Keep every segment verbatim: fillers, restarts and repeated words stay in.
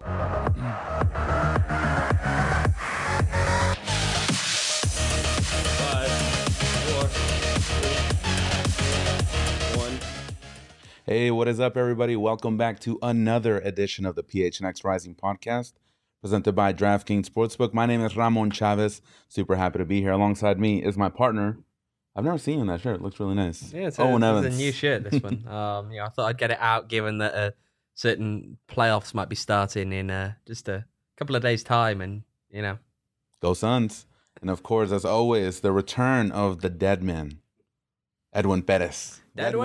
Hey, what is up, everybody? Welcome back to another edition of the P H N X Rising podcast, presented by DraftKings Sportsbook. My name is Ramon Chavez. Super happy to be here. Alongside me is my partner. I've never seen you in that shirt. It looks really nice. Yeah, it's a, Owen it's Evans. a new shirt, this one. um, yeah, I thought I'd get it out, given that uh, certain playoffs might be starting in uh, just a couple of days' time, and you know, Go Suns! And of course, as always, the return of the dead man, Edwin Perez.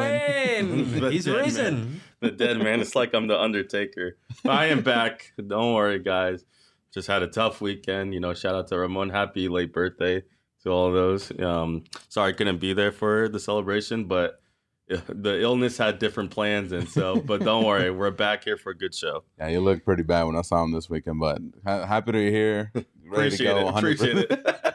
Edwin, he's dead risen. Man. The dead man. It's like I'm the Undertaker. I am back. Don't worry, guys. Just had a tough weekend. You know, shout out to Ramon. Happy late birthday to all of those. Um, sorry I couldn't be there for the celebration, but the illness had different plans, and so. But don't worry, we're back here for a good show. Yeah, you looked pretty bad when I saw him this weekend, but ha- happy to be here. Ready Appreciate to go. it. one hundred percent. Appreciate it.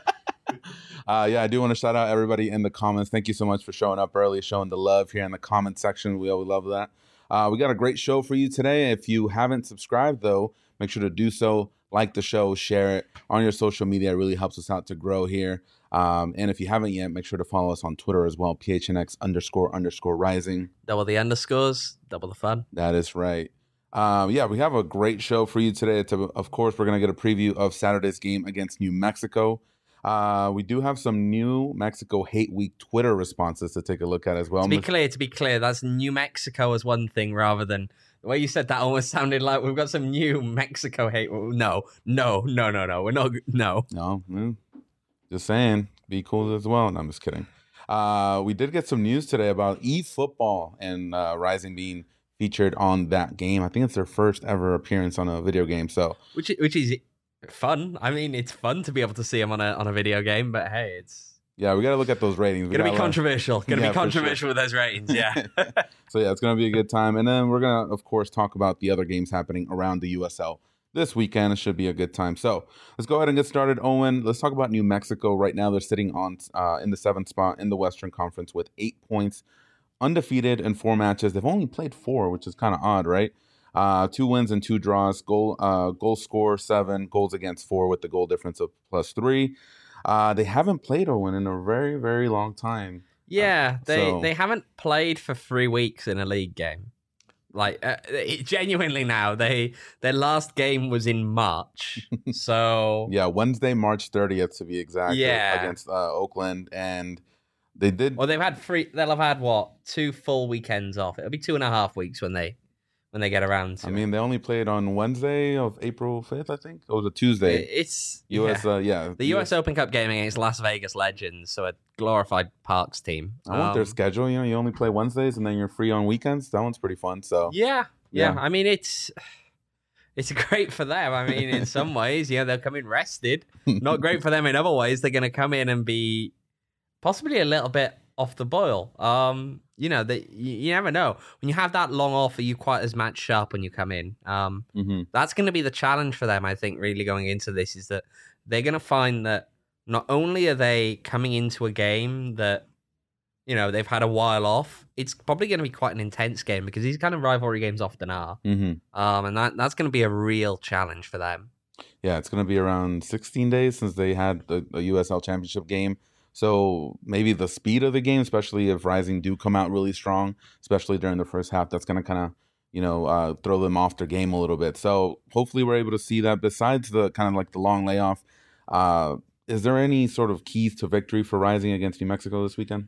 Uh, yeah, I do want to shout out everybody in the comments. Thank you so much for showing up early, showing the love here in the comment section. We always love that. Uh, we got a great show for you today. If you haven't subscribed, though, make sure to do so. Like the show, share it on your social media. It really helps us out to grow here. Um, and if you haven't yet, make sure to follow us on Twitter as well, P H N X underscore underscore rising. Double the underscores, double the fun. That is right. Um, yeah, we have a great show for you today. It's a, of course, we're going to get a preview of Saturday's game against New Mexico. Uh, we do have some New Mexico Hate Week Twitter responses to take a look at as well. To be clear, to be clear, that's New Mexico as one thing rather than the way you said that almost sounded like we've got some New Mexico hate. No, no, no, no, no. We're not. No. No, mm, just saying. Be cool as well. No, I'm just kidding. Uh, we did get some news today about eFootball and uh, Rising being featured on that game. I think it's their first ever appearance on a video game. So, which which is fun. I mean, it's fun to be able to see them on a on a video game, but hey, it's yeah, we got to look at those ratings. Gonna be controversial. Gonna yeah, be controversial sure. with those ratings. Yeah. So yeah, it's gonna be a good time, and then we're gonna, of course, talk about the other games happening around the U S L this weekend. It should be a good time. So let's go ahead and get started. Owen, let's talk about New Mexico. Right now, they're sitting on uh, in the seventh spot in the Western Conference with eight points, undefeated in four matches. They've only played four, which is kind of odd, right? Uh, two wins and two draws. Goal uh, goal score seven, goals against four with the goal difference of plus three. Uh, they haven't played Owen in a very, very long time. Yeah, uh, they so. they haven't played for three weeks in a league game. Like uh, it, genuinely now, they their last game was in March. So yeah, Wednesday, March thirtieth to be exact. Yeah, against uh, Oakland, and they did. Well, they've had three. They'll have had what two full weekends off. It'll be two and a half weeks when they. When they get around to I it. mean, they only played on Wednesday of April fifth, I think. It was a Tuesday. It's U S, yeah. Uh, yeah. The U S Open Cup game against Las Vegas Legends, so a glorified Parks team. I want um, their schedule. You know, you only play Wednesdays and then you're free on weekends. That one's pretty fun. So yeah, yeah. Yeah. I mean, it's it's great for them. I mean, in some ways, you know, they'll come in rested. Not great for them in other ways. They're going to come in and be possibly a little bit off the boil. Um, you know, that you, you never know. When you have that long off, are you quite as match sharp when you come in? Um, mm-hmm. That's going to be the challenge for them, I think, really going into this, is that they're going to find that not only are they coming into a game that, you know, they've had a while off, it's probably going to be quite an intense game because these kind of rivalry games often are. Mm-hmm. Um, and that that's going to be a real challenge for them. Yeah, it's going to be around sixteen days since they had the, the U S L Championship game. So maybe the speed of the game, especially if Rising do come out really strong, especially during the first half, that's going to kind of, you know, uh, throw them off their game a little bit. So hopefully we're able to see that. Besides the kind of like the long layoff, uh, is there any sort of keys to victory for Rising against New Mexico this weekend?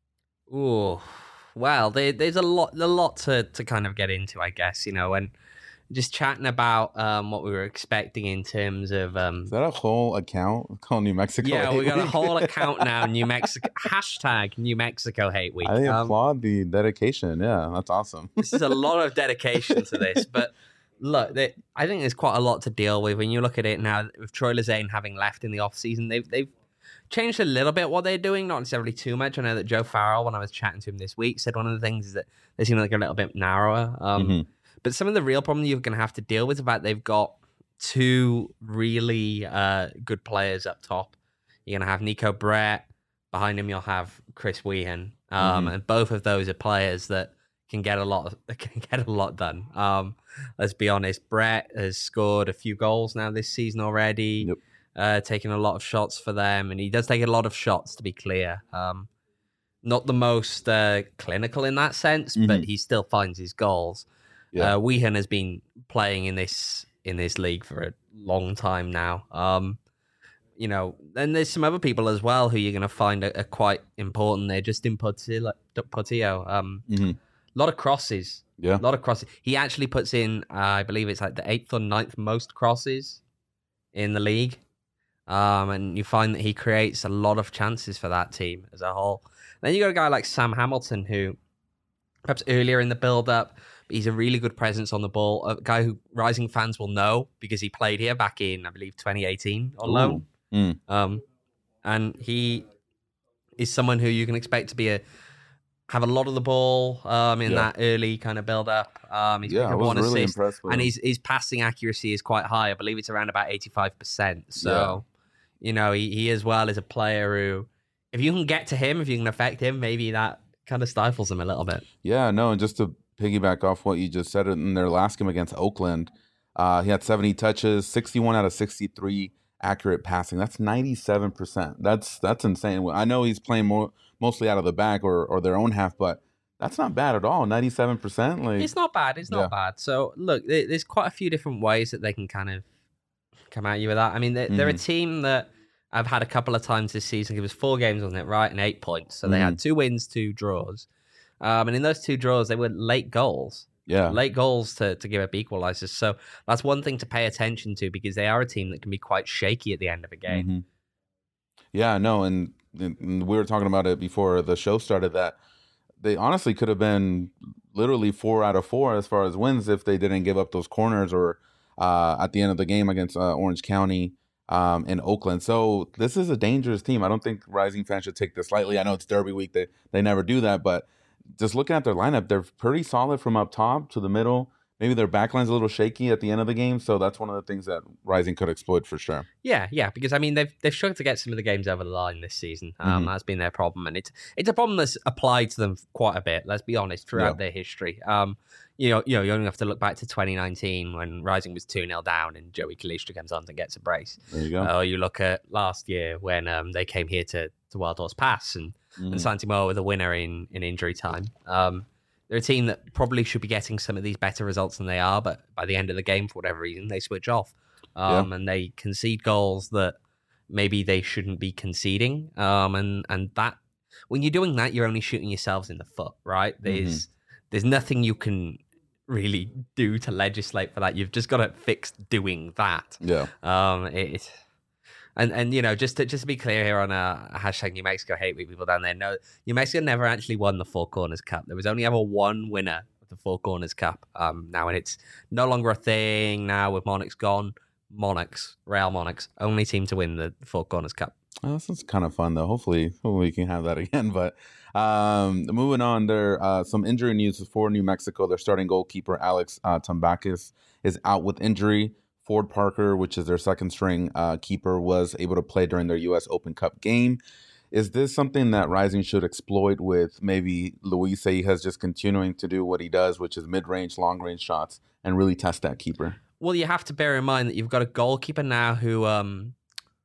Ooh, well, they, there's a lot, a lot to, to kind of get into, I guess, you know, and just chatting about um, what we were expecting in terms of... Um, Is that a whole account called New Mexico yeah, Hate we got Week? a whole account now, New Mexico, hashtag New Mexico Hate Week. I Um, applaud the dedication. Yeah, that's awesome. This is a lot of dedication to this, but look, they, I think there's quite a lot to deal with. When you look at it now, with Troy Lezane having left in the offseason, they've, they've changed a little bit what they're doing, not necessarily too much. I know that Joe Farrell, when I was chatting to him this week, said one of the things is that they seem like a little bit narrower. Um, mm-hmm. But some of the real problem you're going to have to deal with is about they've got two really uh, good players up top. You're going to have Nico Brett. Behind him, you'll have Chris Wehan. Um, mm-hmm. And both of those are players that can get a lot can get a lot done. Um, let's be honest. Brett has scored a few goals now this season already, Yep. uh, taking a lot of shots for them, and he does take a lot of shots, to be clear. Um, not the most uh, clinical in that sense, Mhm. but he still finds his goals. Yeah. Uh, Weehan has been playing in this in this league for a long time now. Um, you know, and there's some other people as well who you're going to find are, are quite important. They're just in Portillo. Portillo. Um, hmm a lot of crosses. Yeah. A lot of crosses. He actually puts in, uh, I believe it's like the eighth or ninth most crosses in the league. Um, and you find that he creates a lot of chances for that team as a whole. Then you got a guy like Sam Hamilton, who perhaps earlier in the build-up, he's a really good presence on the ball. A guy who Rising fans will know because he played here back in, I believe, twenty eighteen on loan. Mm. Um, and he is someone who you can expect to be a have a lot of the ball um, in Yeah. that early kind of build-up. Um, he's Yeah, picked I up was one really assist, impressed with and him. his his passing accuracy is quite high. I believe it's around about eighty-five percent. So, you know, he, he as well is a player who, if you can get to him, if you can affect him, maybe that kind of stifles him a little bit. Yeah, no, and just to piggyback off what you just said, in their last game against Oakland, uh, he had seventy touches, sixty-one out of sixty-three accurate passing. That's ninety-seven percent. That's that's insane. I know he's playing more mostly out of the back or, or their own half, but that's not bad at all. ninety-seven percent. Like, It's not bad. It's not Yeah. bad. So, look, there- there's quite a few different ways that they can kind of come at you with that. I mean, they're, they're a Mhm. team that I've had a couple of times this season. It was four games on it, right, and eight points. So they Mm-hmm. had two wins, two draws. Um, and in those two draws, they were late goals. yeah. Late goals to, to give up equalizers. So that's one thing to pay attention to because they are a team that can be quite shaky at the end of a game. Mhm. Yeah, no, and, and we were talking about it before the show started that they honestly could have been literally four out of four as far as wins if they didn't give up those corners or uh, at the end of the game against uh, Orange County um, in Oakland. So this is a dangerous team. I don't think Rising fans should take this lightly. I know it's Derby week. They, they never do that, but just looking at their lineup, they're pretty solid from up top to the middle. Maybe their backline's a little shaky at the end of the game, so that's one of the things that Rising could exploit for sure. Yeah, yeah, because I mean they've they've struggled to get some of the games over the line this season. Um, Mhm. That's been their problem, and it's it's a problem that's applied to them quite a bit. Let's be honest, throughout Yeah. their history. Um, you know, you know, you only have to look back to twenty nineteen when Rising was two nil down and Joey Kalistri comes on and gets a brace. There you go. Or you look at last year when um they came here to to Wild Horse Pass and Mhm. and Santimoa with a winner in in injury time. Um, they're a team that probably should be getting some of these better results than they are, but by the end of the game, for whatever reason, they switch off um, and they concede goals that maybe they shouldn't be conceding. Um, and and that when you're doing that, you're only shooting yourselves in the foot, right? There's there's nothing you can really do to legislate for that. You've just got to fix doing that. Yeah. Um, it, and and you know, just to just to be clear here on a uh, hashtag New Mexico Hate Week, people down there know New Mexico never actually won the Four Corners Cup. There was only ever one winner of the Four Corners Cup. Um, now and it's no longer a thing now with Monarchs gone. Monarchs, Real Monarchs, only team to win the Four Corners Cup. Oh, this is kind of fun though. Hopefully, hopefully we can have that again. But um, moving on, there uh, some injury news for New Mexico. Their starting goalkeeper Alex uh, Tambakis is out with injury. Ford Parker, which is their second string uh, keeper, was able to play during their U S Open Cup game. Is this something that Rising should exploit with maybe Luis Seijas just continuing to do what he does, which is mid-range, long-range shots, and really test that keeper? Well, you have to bear in mind that you've got a goalkeeper now who um,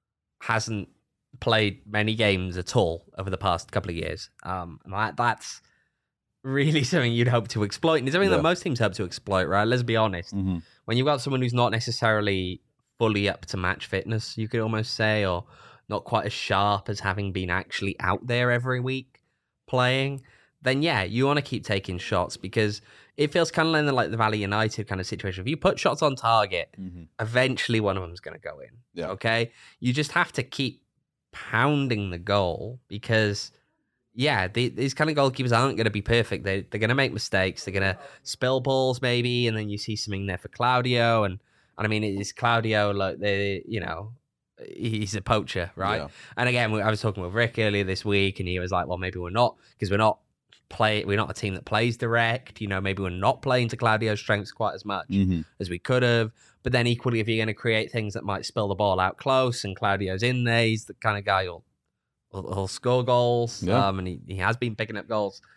hasn't played many games at all over the past couple of years. Um, and that, that's really something you'd hope to exploit. And it's something Yeah. that most teams hope to exploit, right? Let's be honest. Mm-hmm. When you've got someone who's not necessarily fully up to match fitness, you could almost say, or not quite as sharp as having been actually out there every week playing, then yeah, you want to keep taking shots because it feels kind of like the Valley United kind of situation. If you put shots on target, Mm-hmm. eventually one of them's going to go in. Yeah. Okay? You just have to keep pounding the goal because, yeah, the, these kind of goalkeepers aren't going to be perfect. They, they're going to make mistakes. They're going to spill balls maybe, and then you see something there for Claudio. And, and I mean, it's Claudio, like, they, you know, he's a poacher, right? Yeah. And again, I was talking with Rick earlier this week, and he was like, well, maybe we're not, because we're not play we're not a team that plays direct, you know, maybe we're not playing to Claudio's strengths quite as much Mm-hmm. as we could have. But then equally, if you're going to create things that might spill the ball out close and Claudio's in there, he's the kind of guy who'll, who'll, who'll score goals. Yeah. Um, and he, he has been picking up goals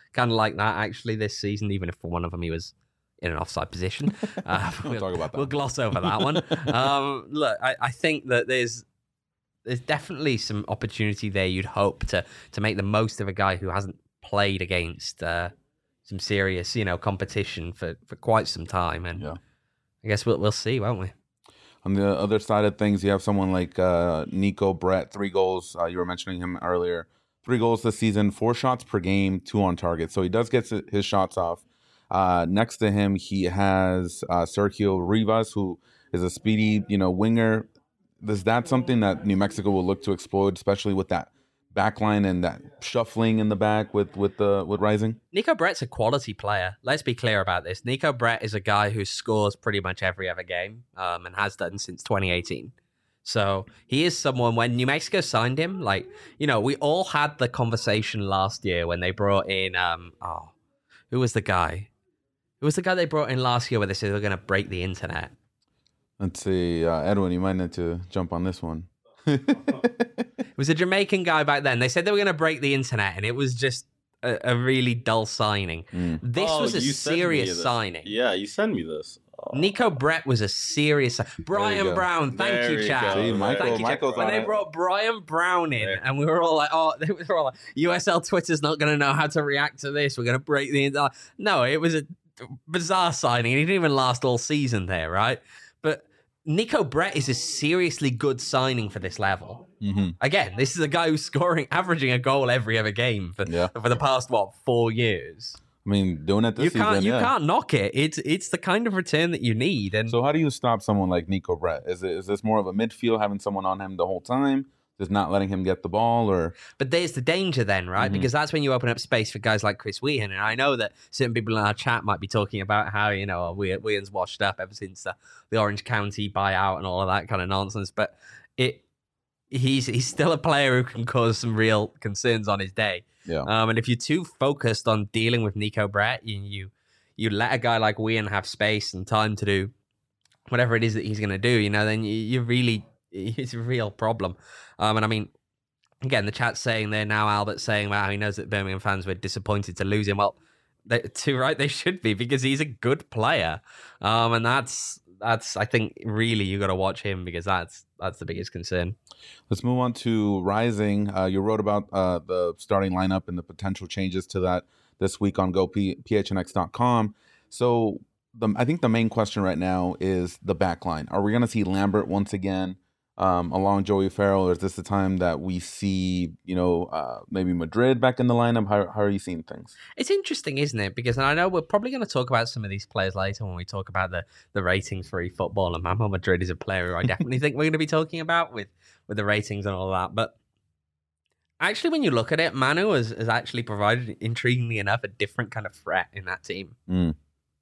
kind of like that actually this season, even if for one of them he was in an offside position. Uh, We'll talk about that. We'll gloss over that one. Um, look, I, I think that there's there's definitely some opportunity there. You'd hope to to make the most of a guy who hasn't played against uh, some serious, you know, competition for, for quite some time, and Yeah. I guess we'll we'll see, won't we? On the other side of things, you have someone like uh, Nico Brett, three goals. Uh, you were mentioning him earlier. Three goals this season, four shots per game, two on target. So he does get his shots off. Uh, next to him, he has uh, Sergio Rivas, who is a speedy, you know, winger. Is that something that New Mexico will look to exploit, especially with that back line and that shuffling in the back with with the with Rising? Nico Brett's a quality player. Let's be clear about this. Nico Brett is a guy who scores pretty much every other game um, and has done since twenty eighteen. So he is someone, when New Mexico signed him, like, you know, we all had the conversation last year when they brought in, um, oh, who was the guy? Who was the guy they brought in last year where they said they were going to break the internet? Let's see, uh, Edwin, you might need to jump on this one. It was a Jamaican guy back then. They said they were going to break the internet, and it was just a, a really dull signing. Mm. This Oh, was a you sent me serious this. signing. Yeah, you send me this. Oh. Nico Brett was a serious. Brian go. Brown, thank There you, you Chad. go. See, Michael, Thank you, Chad. Michael's When on they it. brought Brian Brown in, There. and we were all like, "Oh, they were all like, U S L Twitter's not going to know how to react to this. We're going to break the internet." No, it was a bizarre signing. He didn't even last all season there, right? But Nico Brett is a seriously good signing for this level. Mm-hmm. Again, this is a guy who's scoring, averaging a goal every other game for, Yeah. for the past, what, four years. I mean, doing it this You season, can't you yeah. can't knock it. It's it's the kind of return that you need. And So how do you stop someone like Nico Brett? Is it is this more of a midfield, having someone on him the whole time, just not letting him get the ball, or But there's the danger then, right? Mhm. Because that's when you open up space for guys like Chris Whehan. And I know that certain people in our chat might be talking about how, you know, Whehan's washed up ever since the, the Orange County buyout and all of that kind of nonsense. But it he's he's still a player who can cause some real concerns on his day. yeah, Um, and if you're too focused on dealing with Nico Brett, you you, you let a guy like Whehan have space and time to do whatever it is that he's going to do, you know, then you, you really, it's a real problem. Um, and I mean, again, the chat's saying there now, Albert saying about how he knows that Birmingham fans were disappointed to lose him. Well, they, too right, they should be, because he's a good player. Um, and that's, that's, I think, really, you got to watch him, because that's, that's the biggest concern. let's move on to Rising. Uh, you wrote about uh, the starting lineup and the potential changes to that this week on go p h n x dot com. So the, I think the main question right now is the back line. Are we going to see Lambert once again um, along Joey Farrell, or is this the time that we see, you know, uh, maybe Madrid back in the lineup? How, how are you seeing things? It's interesting, isn't it? Because I know we're probably going to talk about some of these players later when we talk about the, the ratings for eFootball. And Mamo Madrid is a player who I definitely think we're going to be talking about with, with the ratings and all that. But actually, when you look at it, Manu has, has actually provided, intriguingly enough, a different kind of threat in that team. Mm.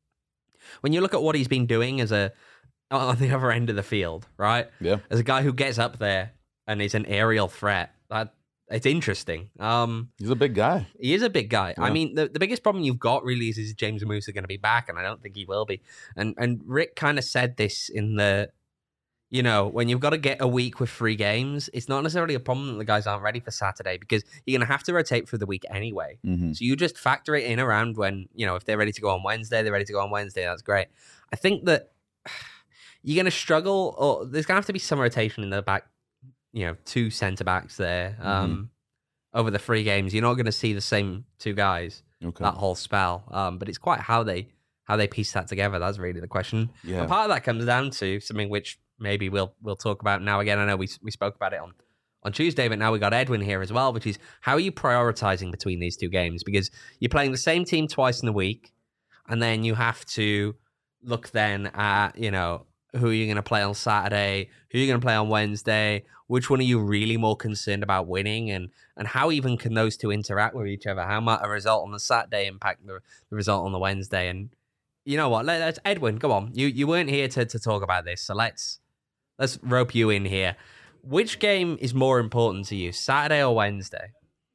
When you look at what he's been doing as a on the other end of the field, right? Yeah. As a guy who gets up there and is an aerial threat, that it's interesting. Um, He's a big guy. He is a big guy. I Yeah. mean, the, the biggest problem you've got really is, is James Musa going to be back, and I don't think he will be. And and Rick kind of said this in the, you know, when you've got to get a week with three games, it's not necessarily a problem that the guys aren't ready for Saturday, because you're going to have to rotate through the week anyway. Mm-hmm. So you just factor it in around when, you know, if they're ready to go on Wednesday, they're ready to go on Wednesday. That's great. I think that you're going to struggle, or there's going to have to be some rotation in the back, you know, two centre backs there. Um, over the three games, you're not going to see the same two guys Okay. that whole spell. Um, but it's quite how they how they piece that together. That's really the question. Yeah. And part of that comes down to something which maybe we'll we'll talk about now. Again, I know we we spoke about it on on Tuesday, but now we got Edwin here as well, which is how are you prioritizing between these two games? Because you're playing the same team twice in the week, and then you have to look then at, you know, who are you going to play on Saturday, who are you going to play on Wednesday, which one are you really more concerned about winning, and and how even can those two interact with each other? How might a result on the Saturday impact the, the result on the Wednesday? And you know what, let, let's Edwin, go on. You you weren't here to, to talk about this, so let's let's rope you in here. Which game is more important to you, Saturday or Wednesday?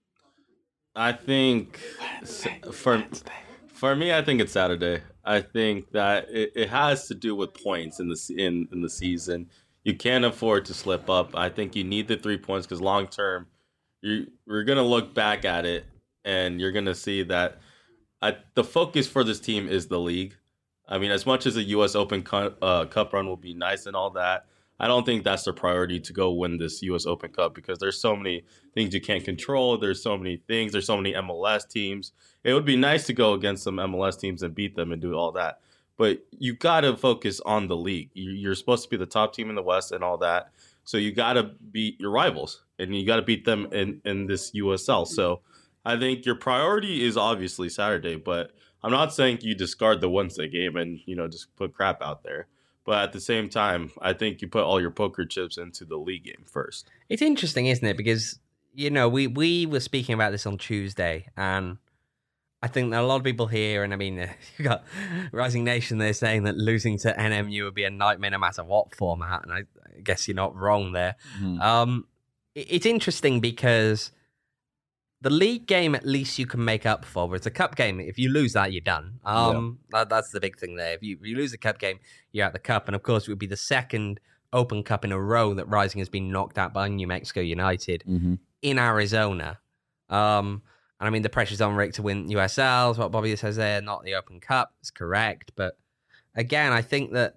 I think for for me, I think it's Saturday. I think that it, it has to do with points in the se- in in the season. You can't afford to slip up. I think you need the three points because long term, you we're gonna look back at it and you're gonna see that I, the focus for this team is the league. I mean, as much as a U S Open cu- uh, Cup run will be nice and all that, I don't think that's their priority to go win this U S Open Cup because there's so many things you can't control. There's so many things. There's so many M L S teams. It would be nice to go against some M L S teams and beat them and do all that. But you got to focus on the league. You're supposed to be the top team in the West and all that. So you got to beat your rivals and you got to beat them in, in this U S L. So I think your priority is obviously Saturday, but I'm not saying you discard the Wednesday game and, you know, just put crap out there. But at the same time, I think you put all your poker chips into the league game first. It's interesting, isn't it? Because, you know, we, we were speaking about this on Tuesday, and I think that a lot of people here, and I mean, you got Rising Nation, they're saying that losing to N M U would be a nightmare no matter what format, and I, I guess you're not wrong there. Mm-hmm. Um, it, it's interesting because the league game, at least you can make up for, but it's a cup game. If you lose that, you're done. Um, yeah. that, that's the big thing there. If you, if you lose the cup game, you're out the cup. And of course, it would be the second Open Cup in a row that Rising has been knocked out by New Mexico United mm-hmm. in Arizona. Um, and I mean, the pressure's on Rick to win U S Ls. What Bobby says there, not the Open Cup. It's correct. But again, I think that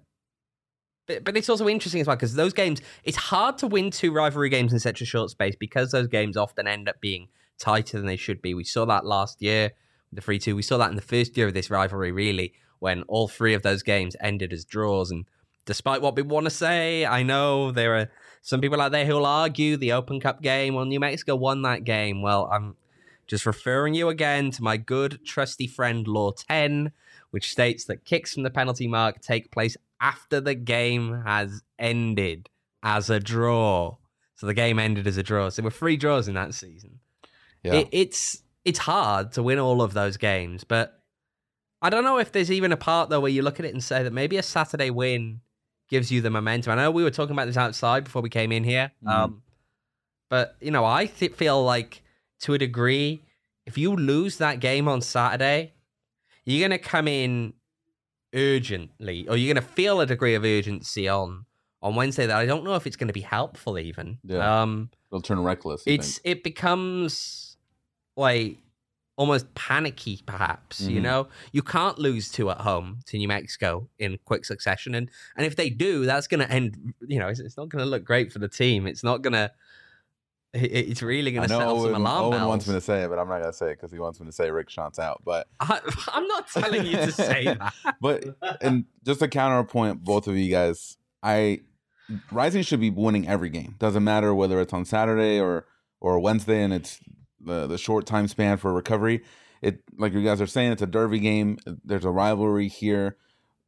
But, but it's also interesting as well because those games, it's hard to win two rivalry games in such a short space because those games often end up being tighter than they should be. We saw that last year, the three two. We saw that in the first year of this rivalry, really, when all three of those games ended as draws. And despite what people want to say, I know there are some people out there who will argue the Open Cup game, well, New Mexico won that game. Well, I'm just referring you again to my good, trusty friend, Law ten, which states that kicks from the penalty mark take place after the game has ended as a draw. So the game ended as a draw. So there were three draws in that season. Yeah. It, it's it's hard to win all of those games, but I don't know if there's even a part, though, where you look at it and say that maybe a Saturday win gives you the momentum. I know we were talking about this outside before we came in here, mm. um, but, you know, I th- feel like, to a degree, if you lose that game on Saturday, you're going to come in urgently, or you're going to feel a degree of urgency on on Wednesday that I don't know if it's going to be helpful even. Yeah. Um, It'll turn reckless. It's think. It becomes like almost panicky, perhaps, mm-hmm. you know? You can't lose two at home to New Mexico in quick succession. And and if they do, that's going to end, you know, it's, it's not going to look great for the team. It's not going to, it's really going to set off some alarm Owen bells. Owen wants me to say it, but I'm not going to say it because he wants me to say Rick Schantz out. But I, I'm not telling you to say that. But, and just to counterpoint both of you guys, I, Rising should be winning every game. Doesn't matter whether it's on Saturday or or Wednesday, and it's the the short time span for recovery. It, like you guys are saying, it's a derby game. There's a rivalry here.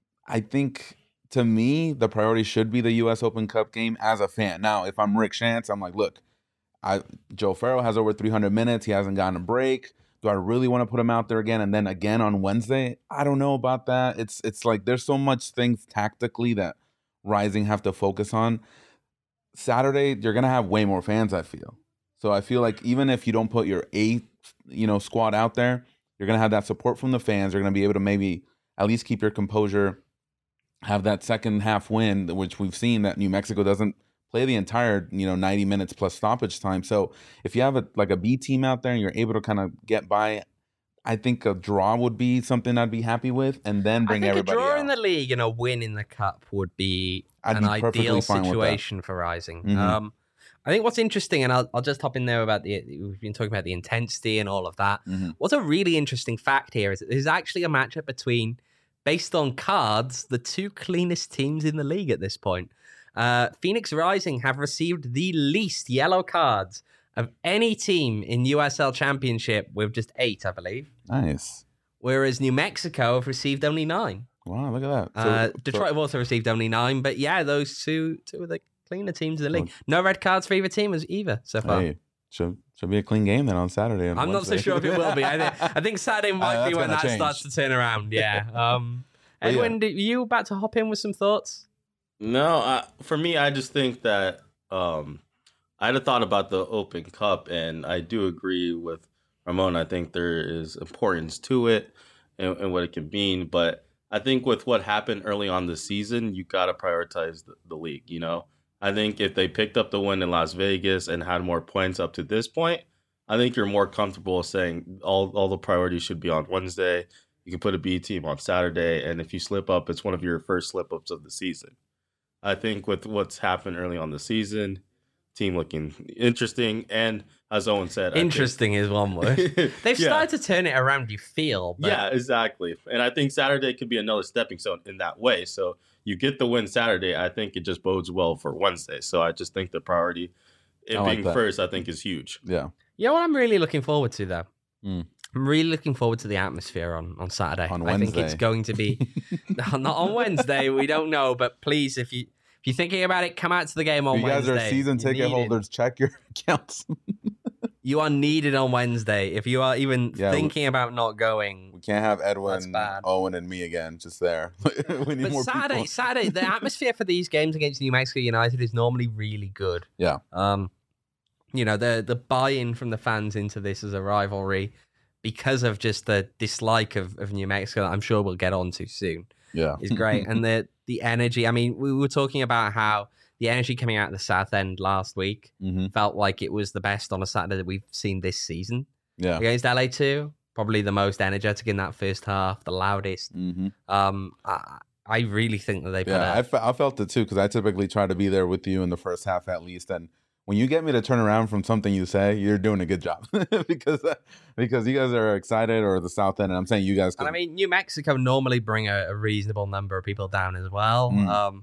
I think, to me, the priority should be the U S Open Cup game as a fan. Now, if I'm Rick Schantz, I'm like, look, I Joe Farrell has over three hundred minutes. He hasn't gotten a break. Do I really want to put him out there again and then again on Wednesday? I don't know about that. It's it's like there's so much things tactically that Rising have to focus on. Saturday, you're going to have way more fans, I feel. So I feel like even if you don't put your A, you know, squad out there, you're going to have that support from the fans. You're going to be able to maybe at least keep your composure, have that second half win, which we've seen that New Mexico doesn't play the entire, you know, ninety minutes plus stoppage time. So if you have a like a B team out there and you're able to kind of get by, I think a draw would be something I'd be happy with, and then bring I think everybody a draw out. in the league and a win in the cup would be I'd an be ideal situation for Rising. Mm-hmm. Um, I think what's interesting, and I'll, I'll just hop in there about the, we've been talking about the intensity and all of that. Mm-hmm. What's a really interesting fact here is that there's actually a matchup between, based on cards, the two cleanest teams in the league at this point. Uh, Phoenix Rising have received the least yellow cards of any team in U S L Championship, with just eight, I believe. Nice. Whereas New Mexico have received only nine. Wow, look at that. So, uh, Detroit so, have also received only nine, but yeah, those two two are the cleaner teams in the league. No red cards for either team as either so far. Hey, should should be a clean game then on Saturday. On I'm Wednesday. not so sure if it will be. I think, I think Saturday might uh, be when that change. starts to turn around. Yeah. Um, Edwin, yeah. Are you about to hop in with some thoughts? No, I, for me, I just think that um, I had a thought about the Open Cup, and I do agree with Ramon. I think there is importance to it and, and what it can mean, but I think with what happened early on the season, you got to prioritize the, the league, you know? I think if they picked up the win in Las Vegas and had more points up to this point, I think you're more comfortable saying all all the priorities should be on Wednesday. You can put a B team on Saturday, and if you slip up, it's one of your first slip ups of the season. I think with what's happened early on the season, team looking interesting, and as Owen said, interesting think, is one word. They've yeah. started to turn it around. You feel, but... yeah, exactly. And I think Saturday could be another stepping stone in that way. So you get the win Saturday. I think it just bodes well for Wednesday. So I just think the priority, it I like being that. first, I think is huge. Yeah. You know what I'm really looking forward to, though? Mm. I'm really looking forward to the atmosphere on, on Saturday. On I think Wednesday. it's going to be... not on Wednesday, we don't know, but please, if you... If you're thinking about it, come out to the game on If you guys Wednesday. are season You ticket need it. holders, check your accounts. You are needed on Wednesday. If you are even Yeah, we- thinking about not going, We can't have That's Edwin, bad. Owen, and me again just there. we need but more Saturday, people. Saturday, the atmosphere for these games against New Mexico United is normally really good. Yeah. Um, you know, the the buy-in from the fans into this as a rivalry, because of just the dislike of, of New Mexico, that I'm sure we'll get on to soon, Yeah. is great. And the the energy. I mean, we were talking about how the energy coming out of the South End last week hmm felt like it was the best on a Saturday that we've seen this season Yeah. against L A two. Probably the most energetic in that first half, the loudest. hmm Um, I, I really think that they put Yeah, a, I, fe- I felt it too because I typically try to be there with you in the first half at least. And when you get me to turn around from something you say, you're doing a good job because uh, because you guys are excited, or the South End, and I'm saying you guys. And I Could, mean, New Mexico normally bring a, a reasonable number of people down as well. Mm. Um,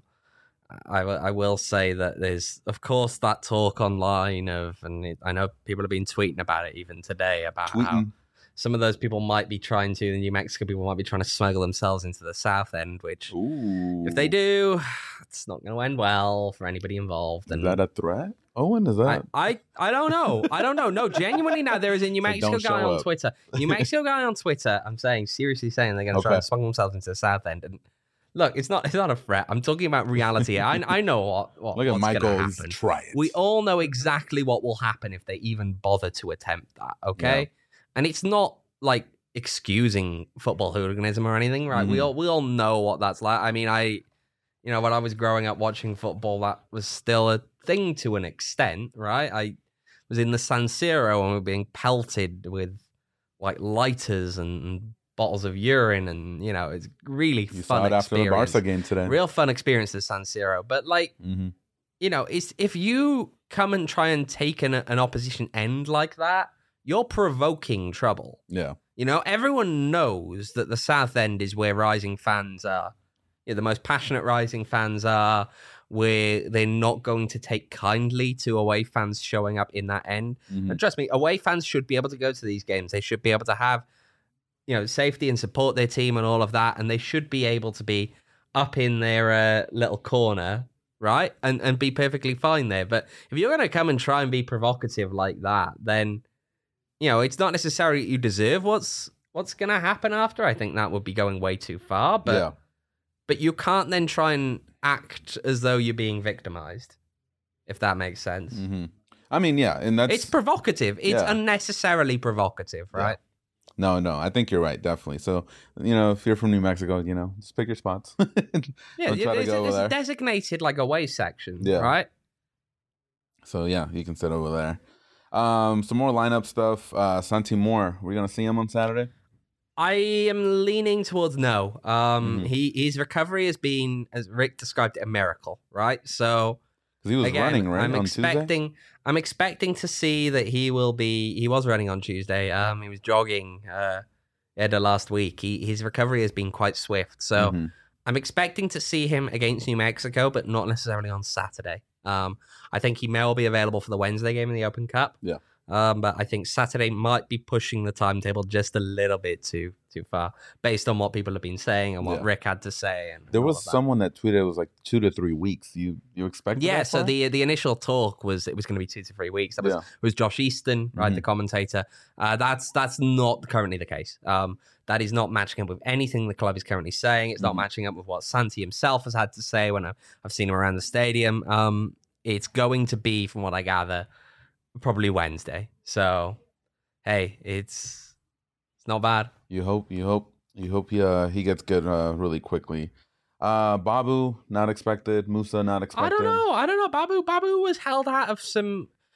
I, w- I will say that there's, of course, that talk online of, and it, I know people have been tweeting about it even today about how tweeting. some of those people might be trying to, the New Mexico people might be trying to smuggle themselves into the South End, which Ooh, if they do, it's not going to end well for anybody involved. is And that a threat? Owen, is I, that? I, I don't know. I don't know. No, genuinely now, there is a New So Mexico don't guy show on up. Twitter. New Mexico guy on Twitter, I'm saying, seriously saying they're going to try Okay. to smuggle themselves into the South End. And look, it's not it's not a threat. I'm talking about reality. I, I know what, what Look at what's Michael. going to He's happen. try it. We all know exactly what will happen if they even bother to attempt that, okay? Yeah. And it's not like excusing football hooliganism or anything, right? We Mhm. all we all know what that's like. I mean, I, you know, when I was growing up watching football, that was still a thing to an extent, right? I was in the San Siro and we were being pelted with like lighters and, and bottles of urine, and you know, it's really You fun saw it after the experience. Barca game today. Real fun experience at San Siro, but like, hmm you know, it's if you come and try and take an, an opposition end like that, you're provoking trouble. Yeah. You know, everyone knows that the South End is where Rising fans are. You know, the most passionate Rising fans are, where they're not going to take kindly to away fans showing up in that end. Mhm. And trust me, away fans should be able to go to these games. They should be able to have, you know, safety and support their team and all of that. And they should be able to be up in their uh, little corner, right? And and be perfectly fine there. But if you're going to come and try and be provocative like that, then, you know, it's not necessarily you deserve what's what's going to happen after. I think that would be going way too far. But yeah. but you can't then try and act as though you're being victimized, if that makes sense. hmm I mean, yeah, and that's It's provocative. It's yeah. unnecessarily provocative, Yeah. right? no, no. I think you're right, definitely. So, you know, if you're from New Mexico, you know, just pick your spots. Yeah, Don't try to it's, go over it's there. a designated like away section, Yeah. right? So yeah, you can sit over there. Um, some more lineup stuff. Uh, Santi Moore, we're gonna see him on Saturday. I am leaning towards no. Um, Mhm. he his recovery has been, as Rick described it, a miracle, right? So Because he was again, running right I'm on Tuesday. expecting I'm expecting to see that he will be. He was running on Tuesday. Um, he was jogging. Uh, yeah, the last week. He his recovery has been quite swift. So Mhm. I'm expecting to see him against New Mexico, but not necessarily on Saturday. Um, I think he may well be available for the Wednesday game in the Open Cup. Yeah. Um, but I think Saturday might be pushing the timetable just a little bit too too far, based on what people have been saying and what Yeah. Rick had to say. And There all was of that. someone that tweeted it was like two to three weeks. You you expected? Yeah, that so far? the the initial talk was it was going to be two to three weeks. That was Yeah. was Josh Easton, right, Mhm. the commentator. Uh, that's that's not currently the case. Um, that is not matching up with anything the club is currently saying. It's not Mhm. matching up with what Santi himself has had to say when I've, I've seen him around the stadium. Um, it's going to be, from what I gather, probably Wednesday. So, hey, it's it's not bad. You hope you hope you hope he uh, he gets good uh, really quickly. Uh, Babu not expected. Musa not expected. I don't know. I don't know. Babu Babu was held out of some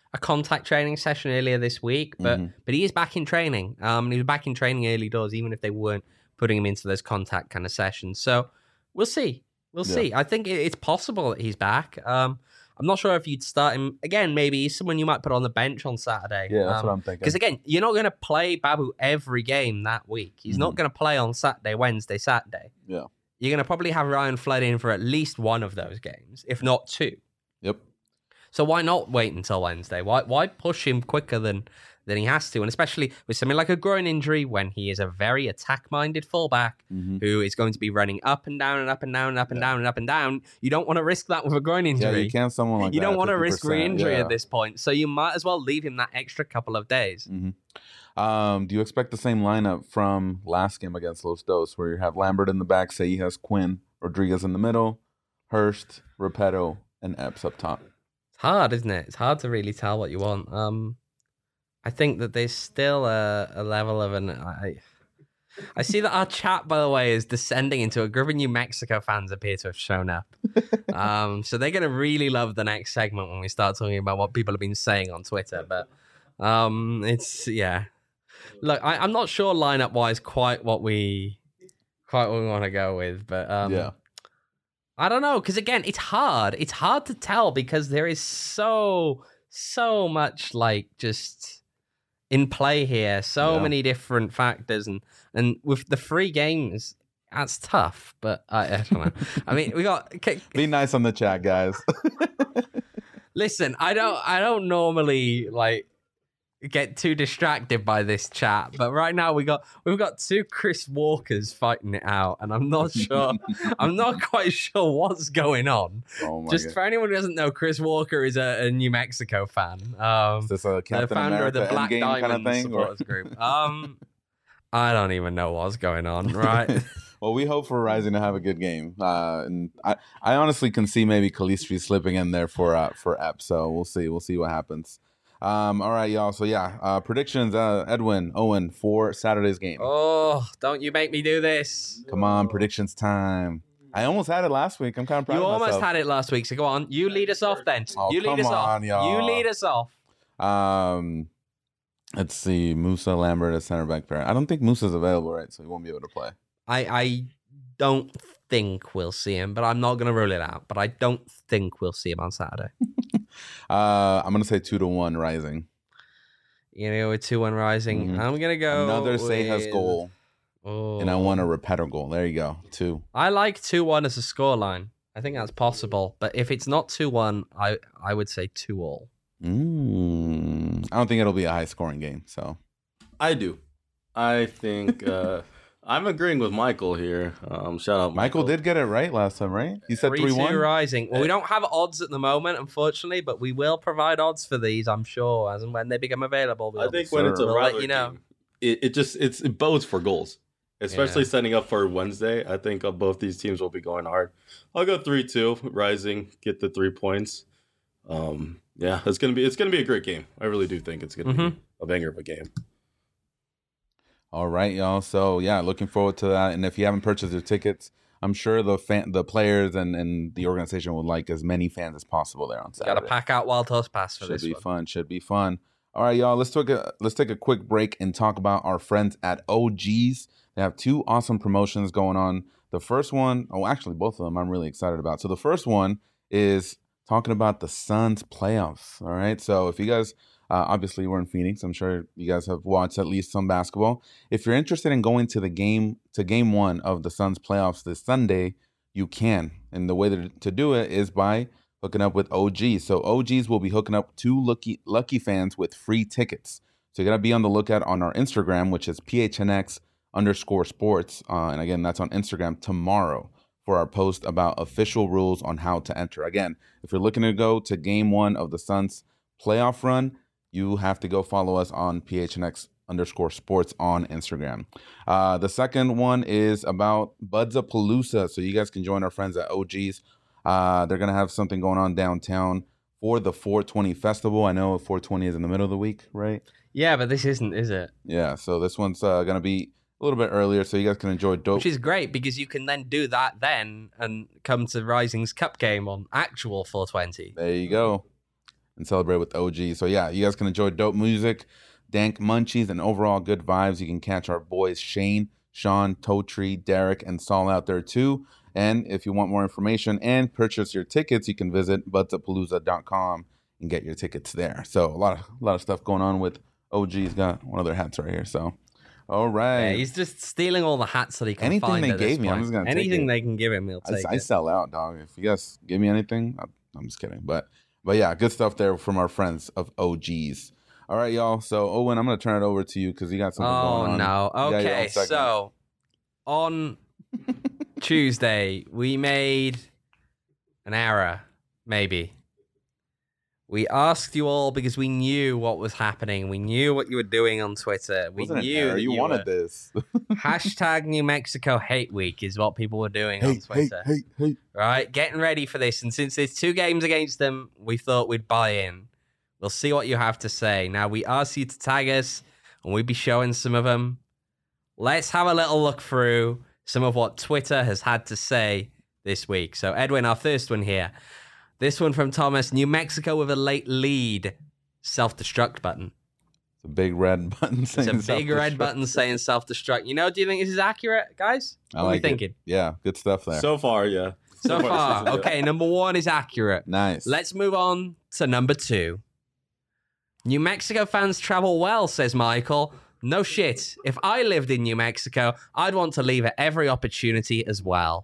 a contact training session earlier this week, but Mhm. but he is back in training. Um, and he was back in training early doors, even if they weren't putting him into those contact kind of sessions. So we'll see. We'll Yeah. see. I think it- it's possible that he's back. Um, I'm not sure if you'd start him again. Maybe he's someone you might put on the bench on Saturday. Yeah, that's Um, what I'm thinking. Because again, you're not going to play Babu every game that week. He's not Mhm. going to play on Saturday, Wednesday, Saturday. Yeah. You're going to probably have Ryan Flood in for at least one of those games, if not two. Yep. So why not wait until Wednesday? Why why push him quicker than than he has to? And especially with something like a groin injury, when he is a very attack-minded fullback hmm who is going to be running up and down and up and down and up and Yeah. down and up and down, you don't want to risk that with a groin Yeah, injury. you can't someone like You that. don't want to risk fifty percent, re-injury yeah. at this point, so you might as well leave him that extra couple of days. Mm-hmm. Um, do you expect the same lineup from last game against Los Dos, where you have Lambert in the back, Seijas, Quinn, Rodriguez in the middle, Hurst, Repetto, and Epps up top? It's hard, isn't it? It's hard to really tell what you want. Um, I think that there's still a, a level of an. I, I see that our chat, by the way, is descending into a group of New Mexico fans appear to have shown up. um, so they're going to really love the next segment when we start talking about what people have been saying on Twitter. But um, it's yeah. Look, I, I'm not sure lineup wise quite what we quite what we want to go with, but um, Yeah. I don't know, because again, it's hard. It's hard to tell because there is so so much like just in play here, so Yeah. many different factors, and and with the free games, that's tough. But I, I don't know. I mean, we got. Okay, Be nice on the chat, guys. listen, I don't I don't normally like get too distracted by this chat, but right now we got we've got two Chris Walkers fighting it out, and I'm not sure I'm not quite sure what's going on. Oh my Just god. for anyone who doesn't know, Chris Walker is a, a New Mexico fan. Um Is this a the Captain founder America of the Black Endgame Diamond kind of thing? or- supporters group. Um I don't even know what's going on, right? Well, we hope for Rising to have a good game, uh, and I, I honestly can see maybe Calistri slipping in there for uh, for Ep. So we'll see, we'll see what happens. Um, all right, y'all. So yeah, uh, predictions. Uh, Edwin, Owen for Saturday's game. Oh, don't you make me do this. Come on, predictions time. I almost had it last week. I'm kind of proud You of almost myself. had it last week, so go on. You lead us off then. Oh, you lead come us off. on, y'all. You lead us off. Um, let's see, Musa Lambert at center back pair. I don't think Musa's available, right? So he won't be able to play. I I don't think we'll see him, but I'm not going to rule it out. But I don't think we'll see him on Saturday. Uh, I'm gonna say two to one Rising. You know, with two one Rising. Mhm. I'm going to go Another Seijas with- goal, Oh. and I want a Repetto goal. There you go, two. I like two one as a scoreline. I think that's possible. But if it's not two one, I, I would say two all. Mm, I don't think it'll be a high scoring game. So I do. I think uh, I'm agreeing with Michael here. Um, shout out Michael Michael. did get it right last time, right? He said three one. Rising. Well, we don't have odds at the moment, unfortunately, but we will provide odds for these, I'm sure, as and when they become available. We'll, I think when it's a we'll let rivalry you know. game, it, it just it's it bodes for goals, especially Yeah. setting up for Wednesday. I think uh, both these teams will be going hard. I'll go three two Rising, get the three points. Um, yeah, it's gonna be it's gonna be a great game. I really do think it's gonna Mhm. be a banger of a game. All right, y'all. So yeah, looking forward to that. And if you haven't purchased your tickets, I'm sure the fan, the players, and, and the organization would like as many fans as possible there on Saturday. Got to pack out Wild Horse Pass for Should this be one. fun. Should be fun. All right, y'all. Let's take a let's take a quick break and talk about our friends at O G's. They have two awesome promotions going on. The first one, oh, actually, both of them I'm really excited about. So the first one is talking about the Suns playoffs. All right. So if you guys, uh, obviously, we're in Phoenix. I'm sure you guys have watched at least some basketball. If you're interested in going to the game to game one of the Suns playoffs this Sunday, you can. And the way that, to do it is by hooking up with O Gs. So O Gs will be hooking up two lucky lucky fans with free tickets. So you got to be on the lookout on our Instagram, which is P H N X underscore sports. Uh, and again, that's on Instagram tomorrow for our post about official rules on how to enter. Again, if you're looking to go to game one of the Suns playoff run, you have to go follow us on P H N X underscore sports on Instagram. Uh, the second one is about Buds-a-Palooza. So you guys can join our friends at O Gs. Uh, they're going to have something going on downtown for the four twenty festival. I know four twenty is in the middle of the week, right? Yeah, but this isn't, is it? Yeah, so this one's uh, going to be a little bit earlier so you guys can enjoy dope. Which is great because you can then do that then and come to Rising's Cup game on actual four twenty. There you go. and celebrate with O G. So yeah, you guys can enjoy dope music, dank munchies, and overall good vibes. You can catch our boys Shane, Sean, Totri, Derek, and Saul out there too. And if you want more information and purchase your tickets, you can visit budsapalooza dot com and get your tickets there. So a lot of a lot of stuff going on with O G's got one of their hats right here. So all right. Yeah, he's just stealing all the hats that he can Anything find they at this gave me, I'm point. just gonna take Anything it. they can give him, he'll I, take I it. sell out, dog. If you guys give me anything, I, I'm just kidding. But but yeah, good stuff there from our friends of O G's. All right, y'all. So Owen, I'm gonna turn it over to you because you got something Oh going on. no. You got your own Okay, segment. so on Tuesday we made an error, maybe. We asked you all because we knew what was happening. We knew what you were doing on Twitter. We Wasn't an knew error. that you, you wanted were... this. Hashtag New Mexico Hate Week is what people were doing on hey, hey, Twitter. hey, hey. Right, getting ready for this. And since there's two games against them, we thought we'd buy in. We'll see what you have to say. Now, we asked you to tag us, and we'll be showing some of them. Let's have a little look through some of what Twitter has had to say this week. So, Edwin, our first one here. This one from Thomas. New Mexico with a late lead. Self-destruct button. It's a big red button saying It's a big red self-destruct. button saying self-destruct. You know, do you think this is accurate, guys? I What like are you it. thinking? Yeah, good stuff there. So far, yeah. So this far, is good. okay, number one is accurate. nice. Let's move on to number two. New Mexico fans travel well, says Michael. No shit. If I lived in New Mexico, I'd want to leave at every opportunity as well.